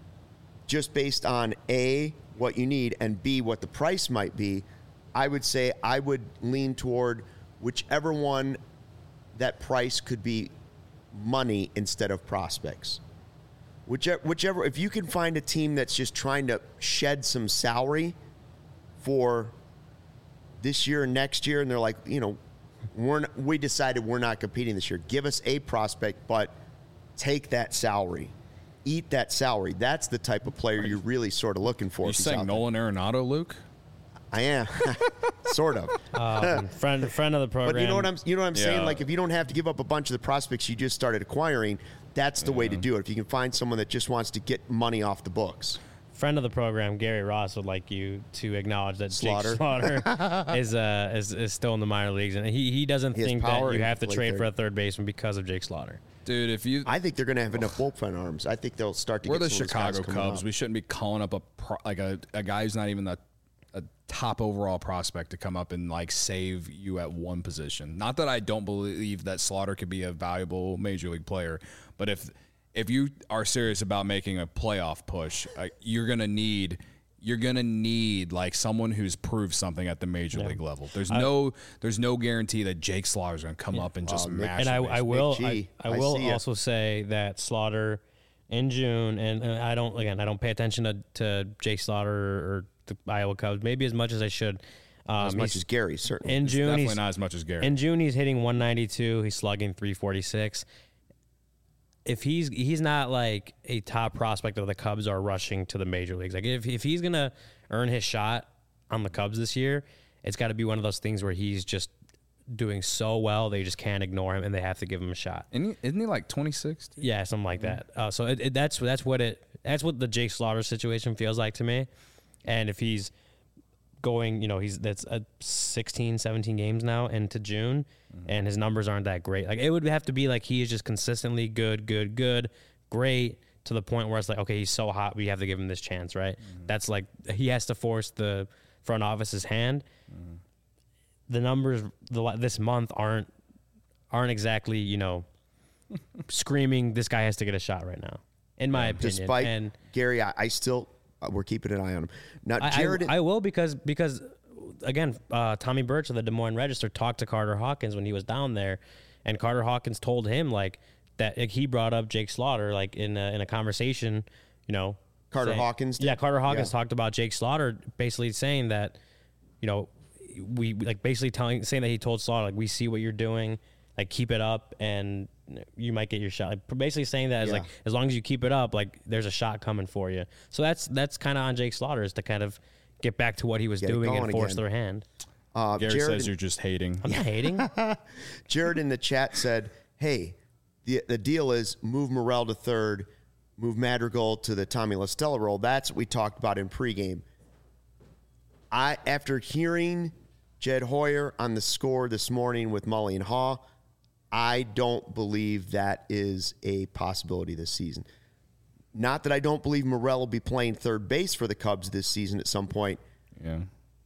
just based on A, what you need, and B, what the price might be, I would say I would lean toward whichever one that price could be money instead of prospects. Whichever, whichever, if you can find a team that's just trying to shed some salary for this year and next year, and they're like, you know, we're not, we decided we're not competing this year. Give us a prospect, but take that salary, eat that salary. That's the type of player you're really sort of looking for. You if he's saying out there. Nolan Arenado, Luke? I am, sort of. um, friend friend of the program. But you know what I'm you know what I'm saying? Yeah. Like if you don't have to give up a bunch of the prospects you just started acquiring, that's the way to do it. If you can find someone that just wants to get money off the books. Friend of the program, Gary Ross, would like you to acknowledge that Slaughter. Jake Slaughter is, uh, is is still in the minor leagues, and he, he doesn't He has think power that you and have to play trade third. for a third baseman because of Jake Slaughter. Dude, if you I think they're going to have enough bullpen arms. I think they'll start to we're get the some of those guys Chicago coming Cubs, up. we shouldn't be calling up a pro, like a, a guy who's not even the a top overall prospect to come up and like save you at one position. Not that I don't believe that Slaughter could be a valuable major league player, but if if you are serious about making a playoff push, uh, you're going to need you're gonna need like someone who's proved something at the major Yeah. league level. There's no there's no guarantee that Jake Slaughter's gonna come Yeah. up and Wow, just Nick- mash. And I, the I base. will G, I, I I will see ya. also say that Slaughter in June, and, and I don't again I don't pay attention to, to Jake Slaughter or the Iowa Cubs maybe as much as I should. Um, As much he's- as Gary, certainly. in June Definitely he's not as much as Gary. in June he's hitting one ninety-two. He's slugging three forty-six. If he's he's not like a top prospect of the Cubs are rushing to the major leagues. Like if if he's gonna earn his shot on the Cubs this year, it's got to be one of those things where he's just doing so well they just can't ignore him and they have to give him a shot. Isn't he, isn't he like twenty-six? Yeah, something like that. Uh, so it, it, that's that's what it that's what the Jake Slaughter situation feels like to me. And if he's going, you know, he's that's a sixteen, seventeen games now into June, mm-hmm. and his numbers aren't that great. Like it would have to be like he is just consistently good, good, good, great to the point where it's like, okay, he's so hot, we have to give him this chance, right? Mm-hmm. That's like he has to force the front office's hand. Mm-hmm. The numbers the, this month aren't aren't exactly, you know, screaming this guy has to get a shot right now, in my opinion. Despite and Gary, I, I still uh, we're keeping an eye on him. Now, I, Jared, I, I will because because again, uh, Tommy Birch of the Des Moines Register talked to Carter Hawkins when he was down there, and Carter Hawkins told him like that like, he brought up Jake Slaughter like in a, in a conversation, you know. Carter saying, Hawkins did? Yeah, Carter Hawkins Yeah. talked about Jake Slaughter, basically saying that, you know, we like basically telling saying that he told Slaughter like we see what you're doing, like keep it up and you might get your shot. Like, basically saying that as Yeah. like as long as you keep it up, like there's a shot coming for you. So that's that's kind of on Jake Slaughter is to kind of get back to what he was Get it doing and going force again. their hand. uh, Gary Jared, says you're just hating. I'm not hating. Jared in the chat said, "Hey, the the deal is move Morel to third, move Madrigal to the Tommy La Stella role. That's what we talked about in pregame." I after hearing Jed Hoyer on the score this morning with Mully and Haw, I don't believe that is a possibility this season. Not that I don't believe Morel will be playing third base for the Cubs this season at some point. Yeah.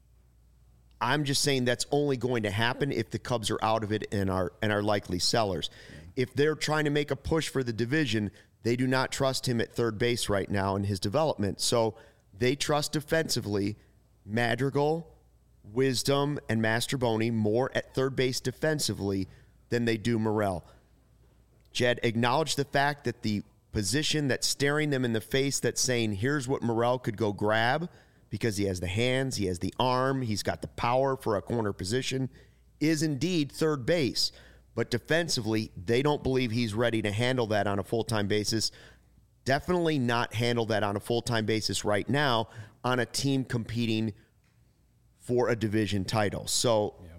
I'm just saying that's only going to happen if the Cubs are out of it and are and are likely sellers. If they're trying to make a push for the division, they do not trust him at third base right now in his development. So they trust defensively Madrigal, Wisdom, and Masterboni more at third base defensively than they do Morel. Jed acknowledged the fact that the position that's staring them in the face that's saying, here's what Morel could go grab, because he has the hands, he has the arm, he's got the power for a corner position, is indeed third base. But defensively, they don't believe he's ready to handle that on a full-time basis. Definitely not handle that on a full-time basis right now on a team competing for a division title. So Yeah.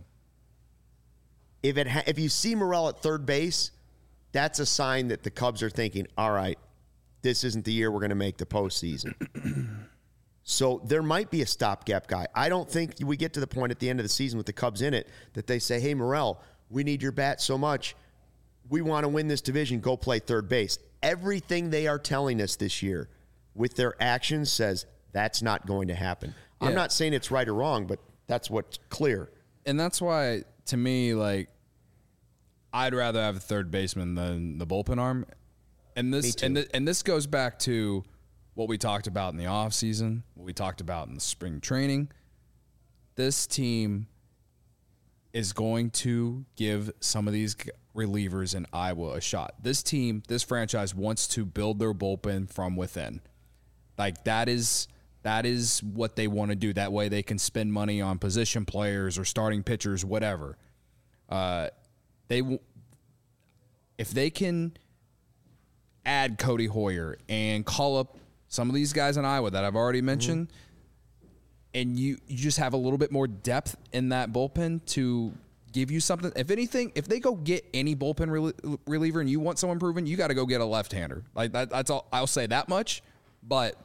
if it ha- if you see Morel at third base, that's a sign that the Cubs are thinking, all right, this isn't the year we're going to make the postseason. So there might be a stopgap guy. I don't think we get to the point at the end of the season with the Cubs in it that they say, hey, Morel, we need your bat so much. We want to win this division. Go play third base. Everything they are telling us this year with their actions says that's not going to happen. I'm Yeah. not saying it's right or wrong, but that's what's clear. And that's why, to me, like, I'd rather have a third baseman than the bullpen arm. And Me this too. and th- and this goes back to what we talked about in the offseason, what we talked about in the spring training. This team is going to give some of these g- relievers in Iowa a shot. This team, this franchise wants to build their bullpen from within. Like that is that is what they want to do. That way they can spend money on position players or starting pitchers, whatever. Uh, they w- if they can add Cody Hoyer and call up some of these guys in Iowa that I've already mentioned, and you, you just have a little bit more depth in that bullpen to give you something. If anything, if they go get any bullpen rel- reliever and you want someone proven, you got to go get a left-hander. Like that, that's all. I'll say that much. But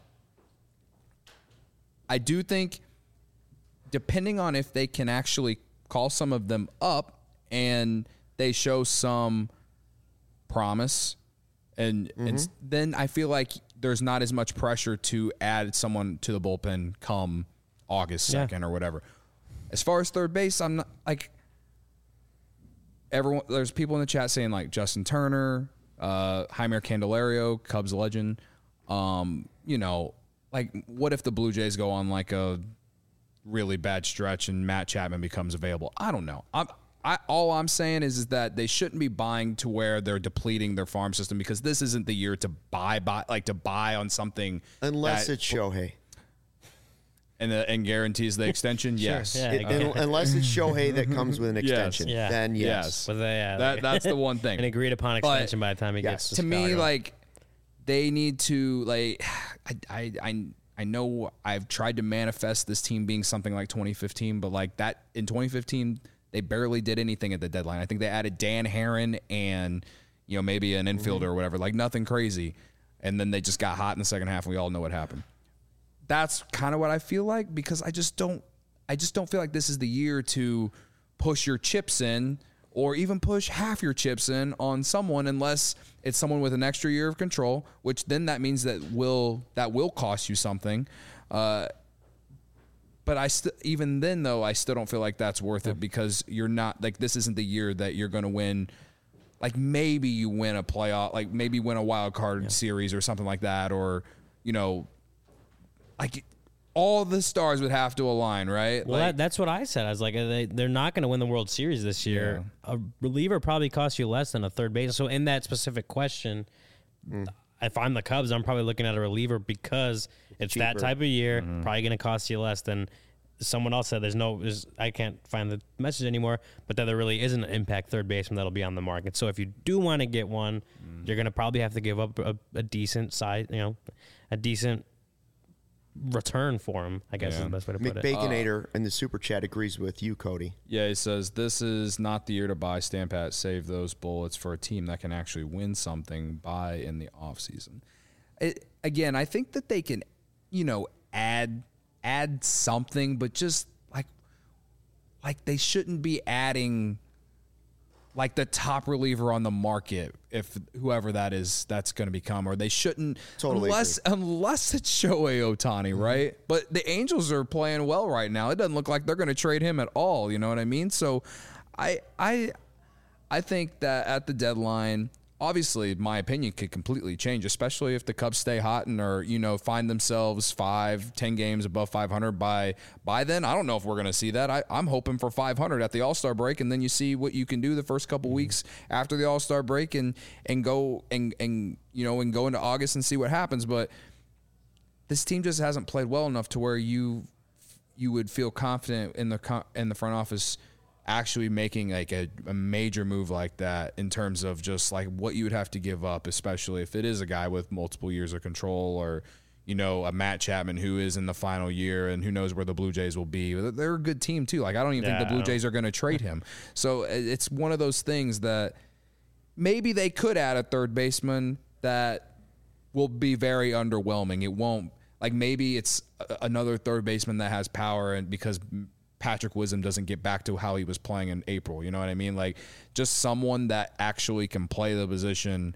I do think, depending on if they can actually call some of them up and they show some promise, and, Mm-hmm. and then I feel like there's not as much pressure to add someone to the bullpen come August Yeah. second or whatever. As far as third base, I'm not like everyone. There's people in the chat saying like Justin Turner, uh, Jaime Candelario, Cubs legend. Um, you know, like, what if the Blue Jays go on like a really bad stretch and Matt Chapman becomes available? I don't know. I'm, I all I'm saying is, is that they shouldn't be buying to where they're depleting their farm system, because this isn't the year to buy, buy like to buy on something Unless that, it's Shohei. and the, and guarantees the extension. Yes, Yeah, It- okay. un- unless it's Shohei that comes with an Yes. extension, Yeah. then yes. yes. But they, yeah, that like- that's the one thing. an agreed upon But- extension by the time he yes. gets to, to me, Chicago. like, they need to, like, I, I, I, I know I've tried to manifest this team being something like twenty fifteen, but like that in twenty fifteen, they barely did anything at the deadline. I think they added Dan Herron and, you know, maybe an infielder or whatever, like nothing crazy. And then they just got hot in the second half, and we all know what happened. That's kind of what I feel like, because I just don't, I just don't feel like this is the year to push your chips in, or even push half your chips in on someone, unless it's someone with an extra year of control, which then that means that will that will cost you something. Uh, but I still, even then though, I still don't feel like that's worth it, because you're not, like, this isn't the year that you're going to win. Like, maybe you win a playoff, like maybe win a wild card yeah. series or something like that, or, you know, like, all the stars would have to align, right? Well, like, that, that's what I said. I was like, they, they're not going to win the World Series this year. Yeah. A reliever probably costs you less than a third base. So in that specific question, mm. if I'm the Cubs, I'm probably looking at a reliever, because it's cheaper. that type of year, Mm-hmm. probably going to cost you less than someone else said. There's no, there's, I can't find the message anymore, but that there really isn't an impact third baseman that'll be on the market. So if you do want to get one, mm. you're going to probably have to give up a, a decent size, you know, a decent return for him, I guess yeah. is the best way to put it. McBaconator uh, in the super chat agrees with you, Cody. Yeah, he says, this is not the year to buy Stampat. Save those bullets for a team that can actually win something. Buy in the offseason. It, again, I think that they can, you know, add add something, but just like like they shouldn't be adding like the top reliever on the market, if whoever that is, that's going to become, or they shouldn't, totally unless agree. unless it's Shohei Ohtani, mm-hmm. right? But the Angels are playing well right now. It doesn't look like they're going to trade him at all. You know what I mean? So, I I I think that at the deadline, obviously, my opinion could completely change, especially if the Cubs stay hot and are, you know, find themselves five, ten games above five hundred by by then. I don't know if we're going to see that. I, I'm hoping for five hundred at the All-Star break, and then you see what you can do the first couple weeks after the All-Star break, and and go and and you know and go into August and see what happens. But this team just hasn't played well enough to where you you would feel confident in the in the front office actually making like a, a major move like that, in terms of just like what you would have to give up, especially if it is a guy with multiple years of control, or, you know, a Matt Chapman who is in the final year and who knows where the Blue Jays will be. They're a good team too. Like, I don't even yeah, think the Blue Jays are going to trade him. So it's one of those things that maybe they could add a third baseman that will be very underwhelming. It won't, like, maybe it's another third baseman that has power, and because Patrick Wisdom doesn't get back to how he was playing in April. You know what I mean? Like, just someone that actually can play the position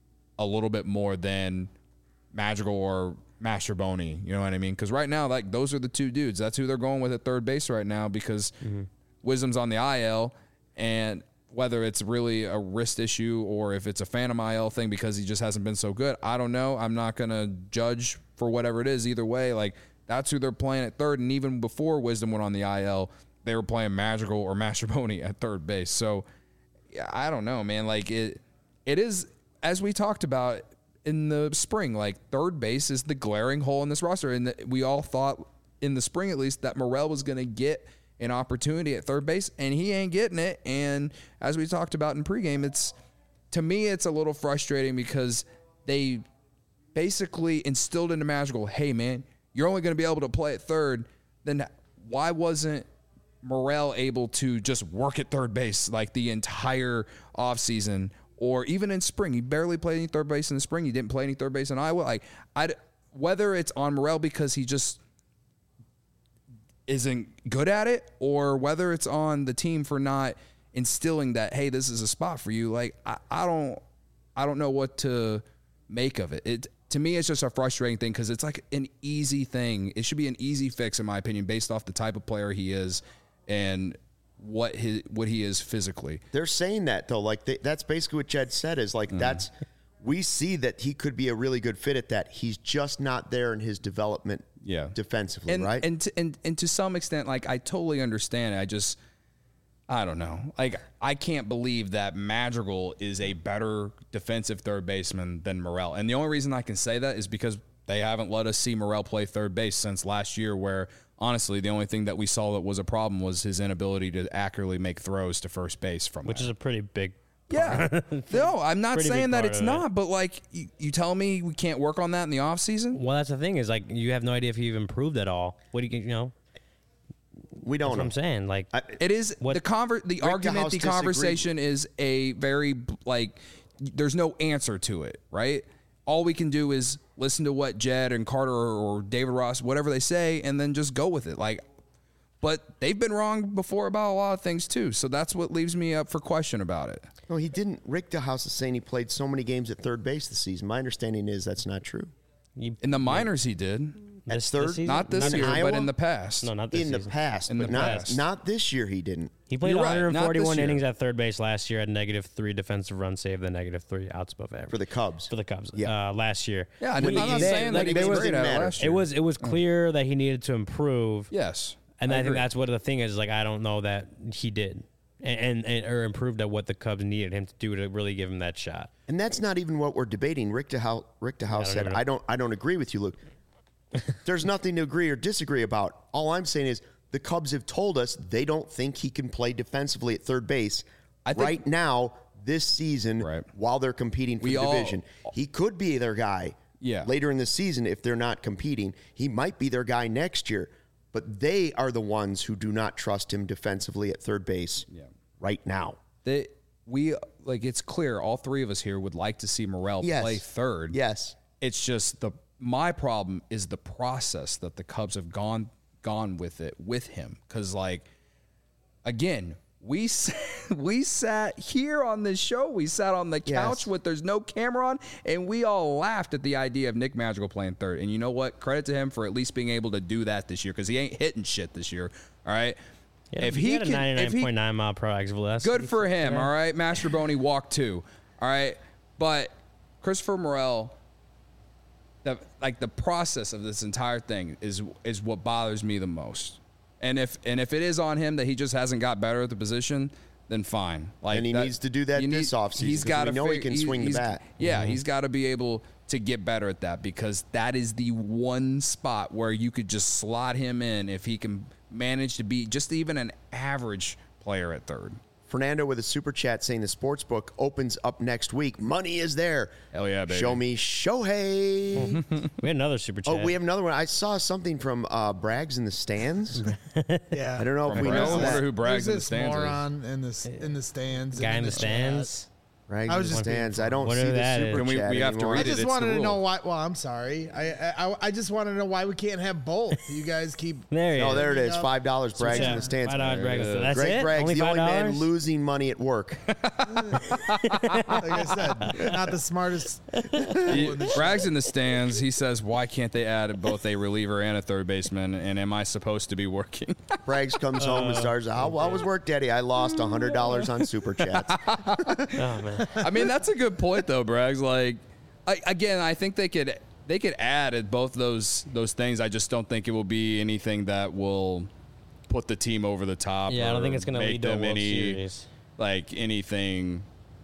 a little bit more than Madrigal or Mastrobuoni. You know what I mean? Because right now, like, those are the two dudes. That's who they're going with at third base right now, because mm-hmm. Wisdom's on the I L, and whether it's really a wrist issue or if it's a phantom I L thing because he just hasn't been so good, I don't know. I'm not going to judge for whatever it is either way. Like, that's who they're playing at third, and even before Wisdom went on the I L, they were playing Madrigal or Mastrobuoni at third base. So, yeah, I don't know, man. Like, it, it is, as we talked about in the spring, like, third base is the glaring hole in this roster, and the, we all thought in the spring at least that Morel was going to get an opportunity at third base, and he ain't getting it. And as we talked about in pregame, it's, to me, it's a little frustrating because they basically instilled into Madrigal, hey, man, you're only going to be able to play at third. Then why wasn't Morel able to just work at third base like the entire offseason, or even in spring? He barely played any third base in the spring. He didn't play any third base in Iowa. Like, I, whether it's on Morel because he just isn't good at it, or whether it's on the team for not instilling that, hey, this is a spot for you. Like, I, I don't, I don't know what to make of it. It, to me, it's just a frustrating thing because it's like an easy thing. It should be an easy fix, in my opinion, based off the type of player he is and what his what he is physically. They're saying that though, like they, that's basically what Jed said. Is like mm. that's we see that he could be a really good fit at that. He's just not there in his development Yeah. defensively, and, right? And, to, and and to some extent, like I totally understand it. I just, I don't know. Like I can't believe that Madrigal is a better defensive third baseman than Morel. And the only reason I can say that is because they haven't let us see Morel play third base since last year, where honestly the only thing that we saw that was a problem was his inability to accurately make throws to first base from which that. is a pretty big. Yeah. No, I'm not Pretty saying big that part it's of it. not, but like you, you tell me we can't work on that in the offseason? Well, that's the thing is like you have no idea if he even improved at all. What do you you know? we don't That's what know. I'm saying. Like I- It is What- the conver- the Rick argument, DeHaus the disagreed. conversation is a very like. There's no answer to it, right? All we can do is listen to what Jed and Carter or David Ross, whatever they say, and then just go with it. Like, but they've been wrong before about a lot of things too. So that's what leaves me up for question about it. No, he didn't. Rick DeHaus is saying he played so many games at third base this season. My understanding is that's not true. you, In the minors, he did. this, third? this season? Not this in year, Iowa? but in the past. No, not this In the season. past, In but the not past. not this year. He didn't. He played You're right, not this one hundred forty-one year. innings at third base last year at negative three defensive run save, then negative three outs above average For the Cubs. for the Cubs. Yeah. Uh, last year. Yeah, I When didn't, I'm he- not they- saying like, that he they was was- great didn't at it matter. last It year. was it was clear that he needed to improve. Yes. And I, think agree. that's what the thing is. Like, I don't know that he did, and, and, and or improved at what the Cubs needed him to do to really give him that shot. And that's not even what we're debating. Rick DeHaus, Rick DeHaus don't said, even- "I don't, I don't agree with you, Luke. There's nothing to agree or disagree about. All I'm saying is the Cubs have told us they don't think he can play defensively at third base I think- right now this season Right. while they're competing for We the all- division. He could be their guy Yeah. later in the season if they're not competing. He might be their guy next year, but they are the ones who do not trust him defensively at third base Yeah. right now. They, we like it's clear all three of us here would like to see Morel Yes. play third. Yes. It's just the my problem is the process that the Cubs have gone gone with it with him because like again we s- we sat here on this show we sat on the couch Yes. with there's no camera on and we all laughed at the idea of Nick Madrigal playing third and you know what, credit to him for at least being able to do that this year because he ain't hitting shit this year. All right, Yeah, if he, he had a can if ninety-nine he point nine mile per hour exit velocity. good for him, all right? Master Boney walked two, all right? But Christopher Morel, the, like the process of this entire thing is is what bothers me the most. And if and if it is on him that he just hasn't got better at the position, then fine. Like And he that- needs to do that you this offseason, 'cause we gotta know he fig- can swing the he's- bat. Yeah, he's got to be able to get better at that because that is the one spot where you could just slot him in if he can manage to be just even an average player at third. Fernando with a super chat saying the sports book opens up next week. Money is there. Hell yeah, baby. Show me Shohei. We had another super chat. Oh, we have another one. I saw something from uh, Braggs in the stands. Yeah. I don't know if we Braggs. know I wonder that. who Braggs Who's in the this stands is. moron in the in the stands? guy and in the chat? stands. Braggs I in was the just being stands. I don't Whatever see the that super is. Can we- chat we have to anymore. read I it. just It's wanted the to rule. know why. Well, I'm sorry. I, I I just wanted to know why we can't have both. You guys keep. There he Oh, is. there it is. Five dollars. Braggs in Yeah, the stands. five dollars Braggs in the stands. That's Greg it. Braggs, Only the five only man dollars. losing money at work. Like I said, not the smartest. He, Bragg's in the stands. He says, "Why can't they add both a reliever and a third baseman? And am I supposed to be working?" Braggs comes home and starts. How well was work, Daddy? I lost a hundred dollars on super chats. Oh man. I mean, that's a good point, though, Braggs. Like, I, again, I think they could they could add at both those those things. I just don't think it will be anything that will put the team over the top. Yeah, I don't or think it's going to make lead to a them World any Series. like anything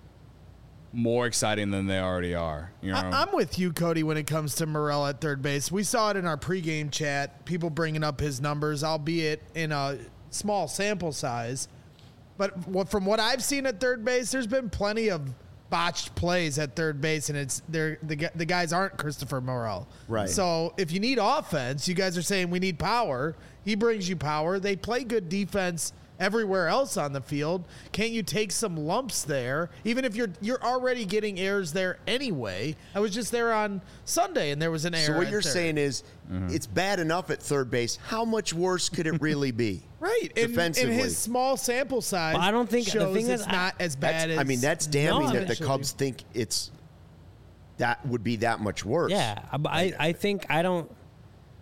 more exciting than they already are. You know, I, I'm with you, Cody, when it comes to Morel at third base. We saw it in our pregame chat, people bringing up his numbers, albeit in a small sample size. But what, from what I've seen at third base, there's been plenty of botched plays at third base, and it's they're, the gu- the guys aren't Christopher Morel. Right. So if you need offense, you guys are saying we need power. He brings you power. They play good defense everywhere else on the field. Can't you take some lumps there, even if you're you're already getting errors there anyway? I was just there on Sunday, and there was an error. So what at you're third. saying is, it's bad enough at third base. How much worse could it really be? right? And, and defensively. his small sample size, But I don't think- the shows thing it's is, I- not as That's, bad as. I mean, that's damning No, that the actually. Cubs think it's that would be that much worse. Yeah, I, I I think I don't.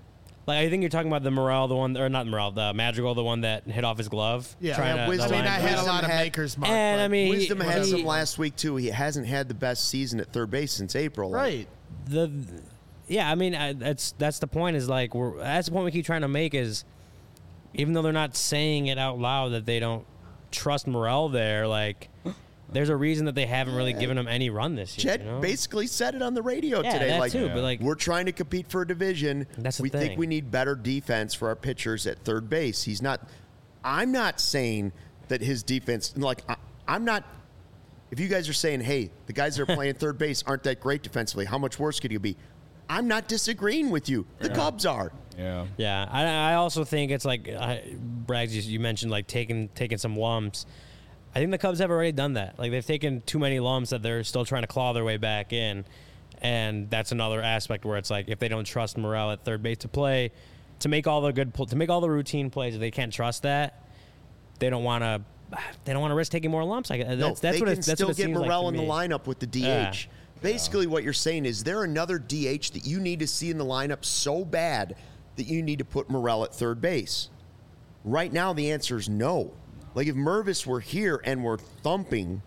Like I think you're talking about the Morel, the one, or not Morel, the Madrigal, the one that hit off his glove. Yeah, trying Yeah, to, Wisdom- the I mean, I line- had a Wisdom lot of had- makers mark. And but- I mean, Wisdom had he- some last week too. He hasn't had the best season at third base since April. Like, right. the yeah, I mean I, that's that's the point is like we're that's the point we keep trying to make is even though they're not saying it out loud that they don't trust Morel there, like there's a reason that they haven't really given him any run this year. Chet you know? basically said it on the radio Yeah, today. that like, too, but, like- we're trying to compete for a division. That's the we think thing. we need better defense for our pitchers at third base. He's not. I'm not saying that his defense. Like I, I'm not. If you guys are saying, hey, the guys that are playing third base aren't that great defensively, how much worse could you be? I'm not disagreeing with you. The Cubs are. Yeah. Yeah, I, I also think it's like I, Braggs. You, you mentioned like taking taking some lumps. I think the Cubs have already done that. Like they've taken too many lumps that they're still trying to claw their way back in, and that's another aspect where it's like if they don't trust Morel at third base to play, to make all the good pl- to make all the routine plays, if they can't trust that, they don't want to. They don't want to risk taking more lumps. Like that's No, that's they what can it, that's still what it get seems like Morel to in the me. lineup with the D H. Yeah. Basically, what you're saying is there another D H that you need to see in the lineup so bad that you need to put Morel at third base. Right now, the answer is no. Like if Mervis were here and were thumping,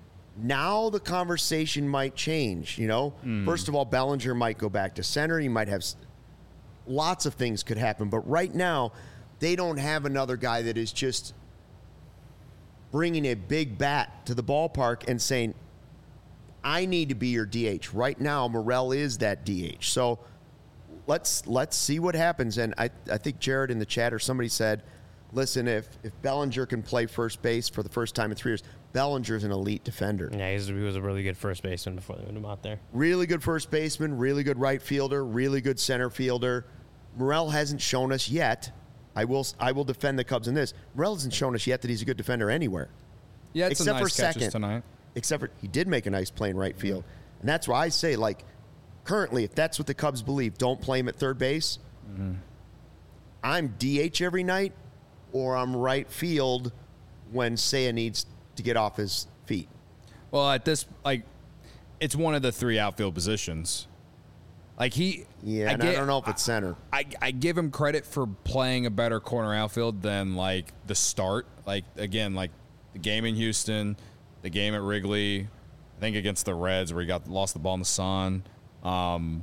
now the conversation might change. You know, first of all, Bellinger might go back to center. You might have s- lots of things could happen, but right now, they don't have another guy that is just bringing a big bat to the ballpark and saying, I need to be your D H. Right now, Morel is that D H. So let's let's see what happens. And I, I think Jared in the chat or somebody said, listen, if, if Bellinger can play first base for the first time in three years, Bellinger's an elite defender. Yeah, he's, he was a really good first baseman before they put him out there. Really good first baseman, really good right fielder, really good center fielder. Morel hasn't shown us yet. I will I will defend the Cubs in this. Morel hasn't shown us yet that he's a good defender anywhere. Yeah, it's Except a for nice catches second. tonight. Except for he did make a nice play in right field. And that's why I say, like, currently, if that's what the Cubs believe, don't play him at third base. Mm-hmm. I'm D H every night, or I'm right field when Seiya needs to get off his feet. Well, at this, like, it's one of the three outfield positions. Like he, Yeah, I, and get- I don't know if it's center. I, I give him credit for playing a better corner outfield than like the start. Like again, like the game in Houston, the game at Wrigley, I think against the Reds where he got lost the ball in the sun. Um,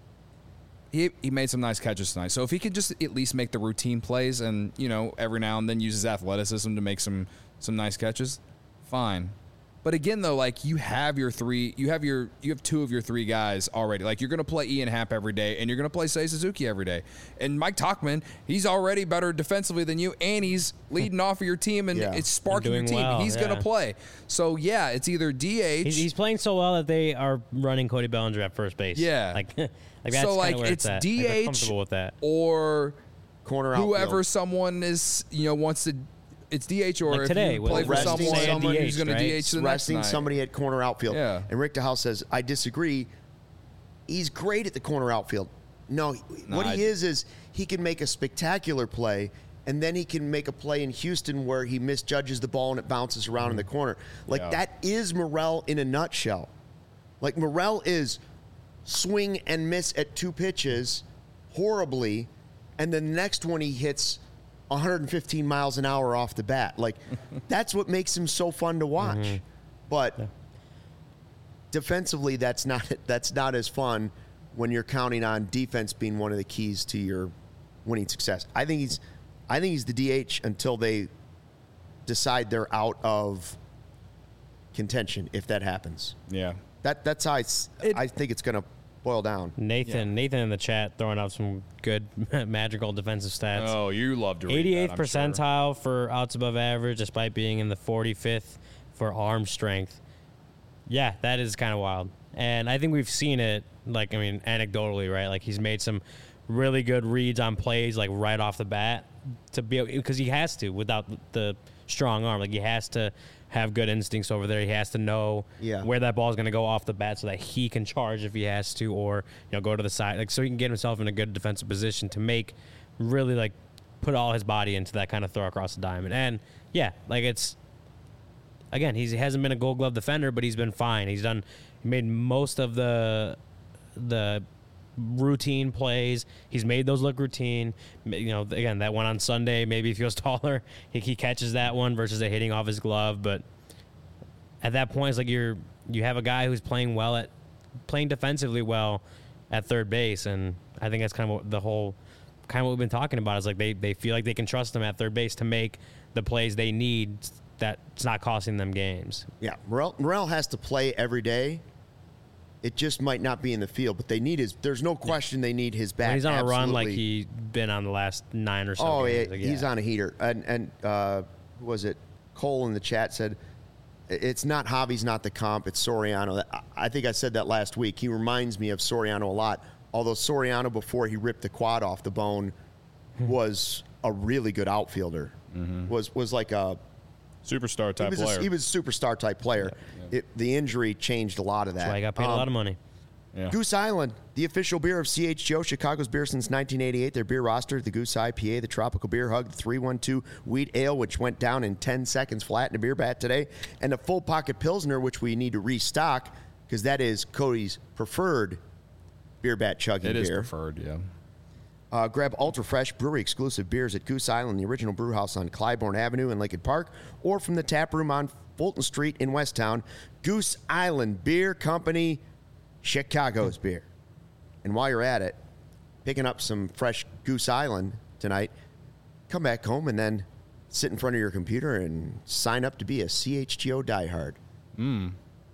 he he made some nice catches tonight. So if he could just at least make the routine plays and you know every now and then use his athleticism to make some some nice catches, fine. But again, though, like you have your three, you have your, you have two of your three guys already. Like you're going to play Ian Happ every day, and you're going to play Seiya Suzuki every day. And Mike Tauchman, he's already better defensively than you, and he's leading off of your team, and Yeah. it's sparking your And team. doing well, he's going yeah. to play. So yeah, it's either D H. He's, he's playing so well that they are running Cody Bellinger at first base. Yeah. like, like that's so kinda like where it's at. Like, D they're H comfortable with that. or Corner outfield. whoever someone is, you know, wants to. It's D H or Like if today, you with play for resting someone, Seiya someone D H, who's going right? to D H the next resting night. somebody at corner outfield. Yeah. And Rick DeHaas says, I disagree. He's great at the corner outfield. No, he- what Nah, he I- is is he can make a spectacular play, and then he can make a play in Houston where he misjudges the ball and it bounces around in the corner. Like Yeah. that is Morel in a nutshell. Like Morel is swing and miss at two pitches horribly, and then the next one he hits one hundred fifteen miles an hour off the bat. Like that's what makes him so fun to watch. But defensively, that's not that's not as fun when you're counting on defense being one of the keys to your winning success. I think he's I think he's the D H until they decide they're out of contention if that happens. Yeah. That that's how I, s- It- I think it's going to boil down. Nathan, Yeah. Nathan in the chat throwing out some good magical defensive stats. Oh, you love to read that, eighty-eighth I'm sure. percentile for outs above average, despite being in the forty-fifth for arm strength. Yeah, that is kind of wild. And I think we've seen it, like, I mean, anecdotally, right? Like, he's made some really good reads on plays, like, right off the bat, to be because he has to without the strong arm. Like, he has to have good instincts over there. He has to know Yeah. where that ball is going to go off the bat so that he can charge if he has to, or, you know, go to the side. Like, so he can get himself in a good defensive position to make really, like, put all his body into that kind of throw across the diamond. And, yeah, like, it's, again, he's, he hasn't been a Gold Glove defender, but he's been fine. He's done, he made most of the, the routine plays. He's made those look routine. You know, again, that one on Sunday, maybe if he was taller, he, he catches that one versus it hitting off his glove. But at that point, it's like you're you have a guy who's playing well at playing defensively well at third base, and I think that's kind of what the whole kind of what we've been talking about is like they they feel like they can trust him at third base to make the plays they need that's not costing them games. Yeah, Morel, Morel has to play every day. It just might not be in the field, but they need his. There's no question they need his bat. When he's on absolutely. a run like he's been on the last nine or so. Oh, games. yeah, Like, he's yeah. on a heater. And and uh, who was it? Cole in the chat said, "It's not Javi's not the comp. It's Soriano." I think I said that last week. He reminds me of Soriano a lot. Although Soriano, before he ripped the quad off the bone, was a really good outfielder. Mm-hmm. Was was like a Superstar type he was player. A, he was a superstar type player. Yeah, yeah. It, the injury changed a lot of that. That's why I got paid Um, a lot of money. Yeah. Goose Island, the official beer of C H G O, Chicago's beer since nineteen eighty-eight. Their beer roster, the Goose I P A, the Tropical Beer Hug, the three one two Wheat Ale, which went down in ten seconds flat in a beer bat today, and the Full Pocket Pilsner, which we need to restock because that is Cody's preferred beer bat chugging It is beer. preferred, yeah. Uh, grab Ultra Fresh brewery exclusive beers at Goose Island, the original brew house on Clybourne Avenue in Lincoln Park, or from the tap room on Fulton Street in Westtown. Goose Island Beer Company, Chicago's beer. And while you're at it, picking up some fresh Goose Island tonight, come back home and then sit in front of your computer and sign up to be a C H G O diehard. Mm.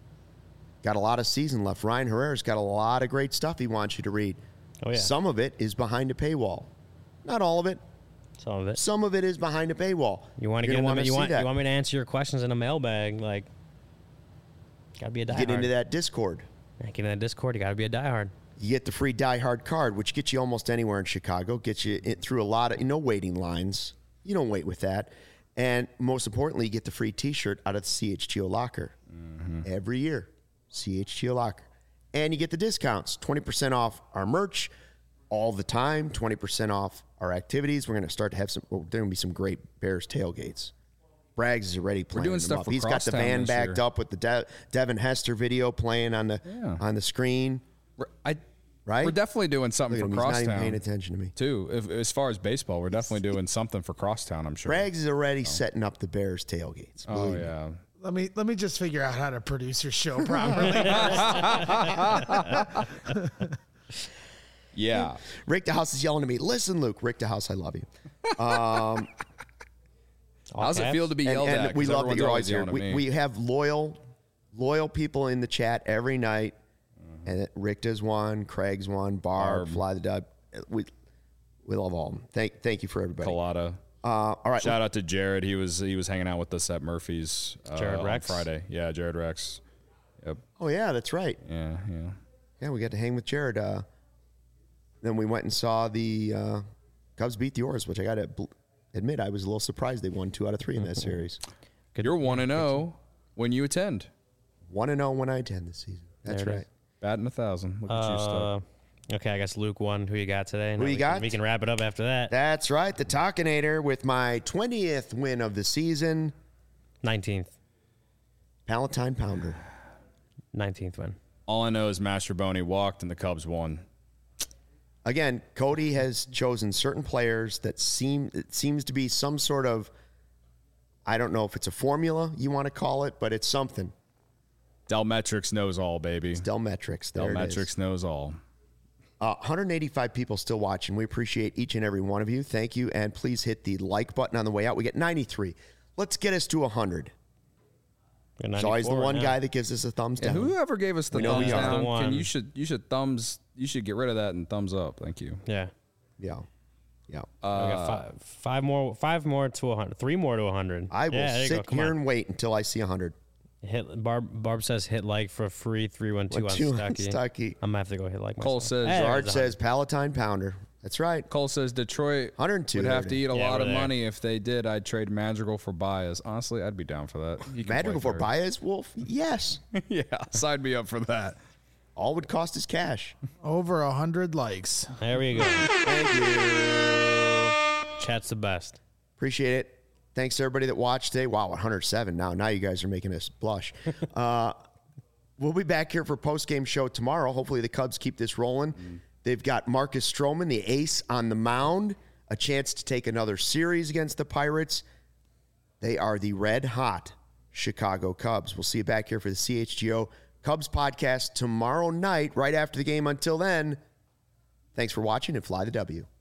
Got a lot of season left. Ryan Herrera's got a lot of great stuff he wants you to read. Oh, yeah. Some of it is behind a paywall. Not all of it. Some of it. Some of it is behind a paywall. You want to You're get gonna them, you wanna want see that. you want me to answer your questions in a mailbag? Like, gotta be a diehard. Get into that Discord. Get into that Discord. You gotta be a diehard. You get the free diehard card, which gets you almost anywhere in Chicago. Gets you in, through a lot of no waiting lines. You don't wait with that. And most importantly, you get the free T-shirt out of the C H G O locker Mm-hmm. every year. C H G O locker, and you get the discounts. twenty percent off our merch all the time. twenty percent off our activities. We're going to start to have some. Well, there are going to be some great Bears tailgates. Braggs is already playing. doing them stuff up. for He's got the Crosstown van this backed year. up with the De- Devin Hester video playing on the Yeah. on the screen. We're, I, Right? we're definitely doing Look something at for him. He's not even Crosstown. paying attention to me. Too. If, as far as baseball, we're definitely doing something for Crosstown, I'm sure. Braggs is already setting up the Bears tailgates. Oh, believe me. yeah. Let me let me just figure out how to produce your show properly. Yeah. Rick DeHouse is yelling at me. Listen, Luke. Rick DeHouse, I love you. Um, All How's it caps. feel to be and, yelled and at? we 'Cause love that everyone's you're always here. yelling at We, me. we have loyal, loyal people in the chat every night, Mm-hmm. and Rick does one, Craig's one, Barb, Barb. Fly the Dub. We we love all of them. Thank thank you for everybody. Colada. Uh, all right, Shout out to Jared. He was he was hanging out with us at Murphy's uh, Jared on Rex? Friday. Yeah, Jared Rex. Yep. oh yeah, that's right. Yeah, yeah. Yeah, we got to hang with Jared. Uh, then we went and saw the uh, Cubs beat the Orioles, which I got to bl- admit I was a little surprised they won two out of three in that series. You're one and zero when you attend. One and zero when I attend this season. That's There it right. is. Batting a thousand. Look at you, Uh, stuff. okay, I guess Luke won. Who you got today? Who Now you we got? Can, we can wrap it up after that. That's right. The Talkinator with my twentieth win of the season. nineteenth. Palatine Pounder. nineteenth win. All I know is Master Boney walked and the Cubs won. Again, Cody has chosen certain players that seem it seems to be some sort of, I don't know if it's a formula you want to call it, but it's something. Delmetrics knows all, baby. Delmetrics. There it is. Delmetrics knows all. Uh, one hundred eighty-five people still watching. We appreciate each and every one of you. Thank you. And please hit the like button on the way out. We get ninety-three. Let's get us to one hundred. There's always the one guy that gives us a thumbs And down. whoever gave us the We know thumbs we are. down, The one. can you should you should thumbs you should get rid of that and thumbs up. Thank you. Yeah. Yeah. Yeah. Uh, we got five, five more. Five more to one hundred. Three more to one hundred. I will yeah, there you go. sit Come here on. and wait until I see one hundred. Hit Barb. Barb says hit like for a free three one two One, on two on Stucky. Stucky. I'm gonna have to go hit like. Cole myself. says- Hey, George there's says Palatine Pounder. That's right. Cole says Detroit one hundred two. would there have it to is. eat a Yeah, lot we're of there. money if they did. I'd trade Madrigal for Baez. Honestly, I'd be down for that. He can Madrigal play for third. Baez Wolf? Yes. Yeah, sign me up for that. All would cost is cash. Over a hundred likes. There we go. Thank you. Chat's the best. Appreciate it. Thanks to everybody that watched today. Wow, one hundred seven now. Now you guys are making us blush. uh, we'll be back here for post-game show tomorrow. Hopefully the Cubs keep this rolling. They've got Marcus Stroman, the ace, on the mound, a chance to take another series against the Pirates. They are the red-hot Chicago Cubs. We'll see you back here for the C H G O Cubs podcast tomorrow night, right after the game. Until then, thanks for watching and fly the W.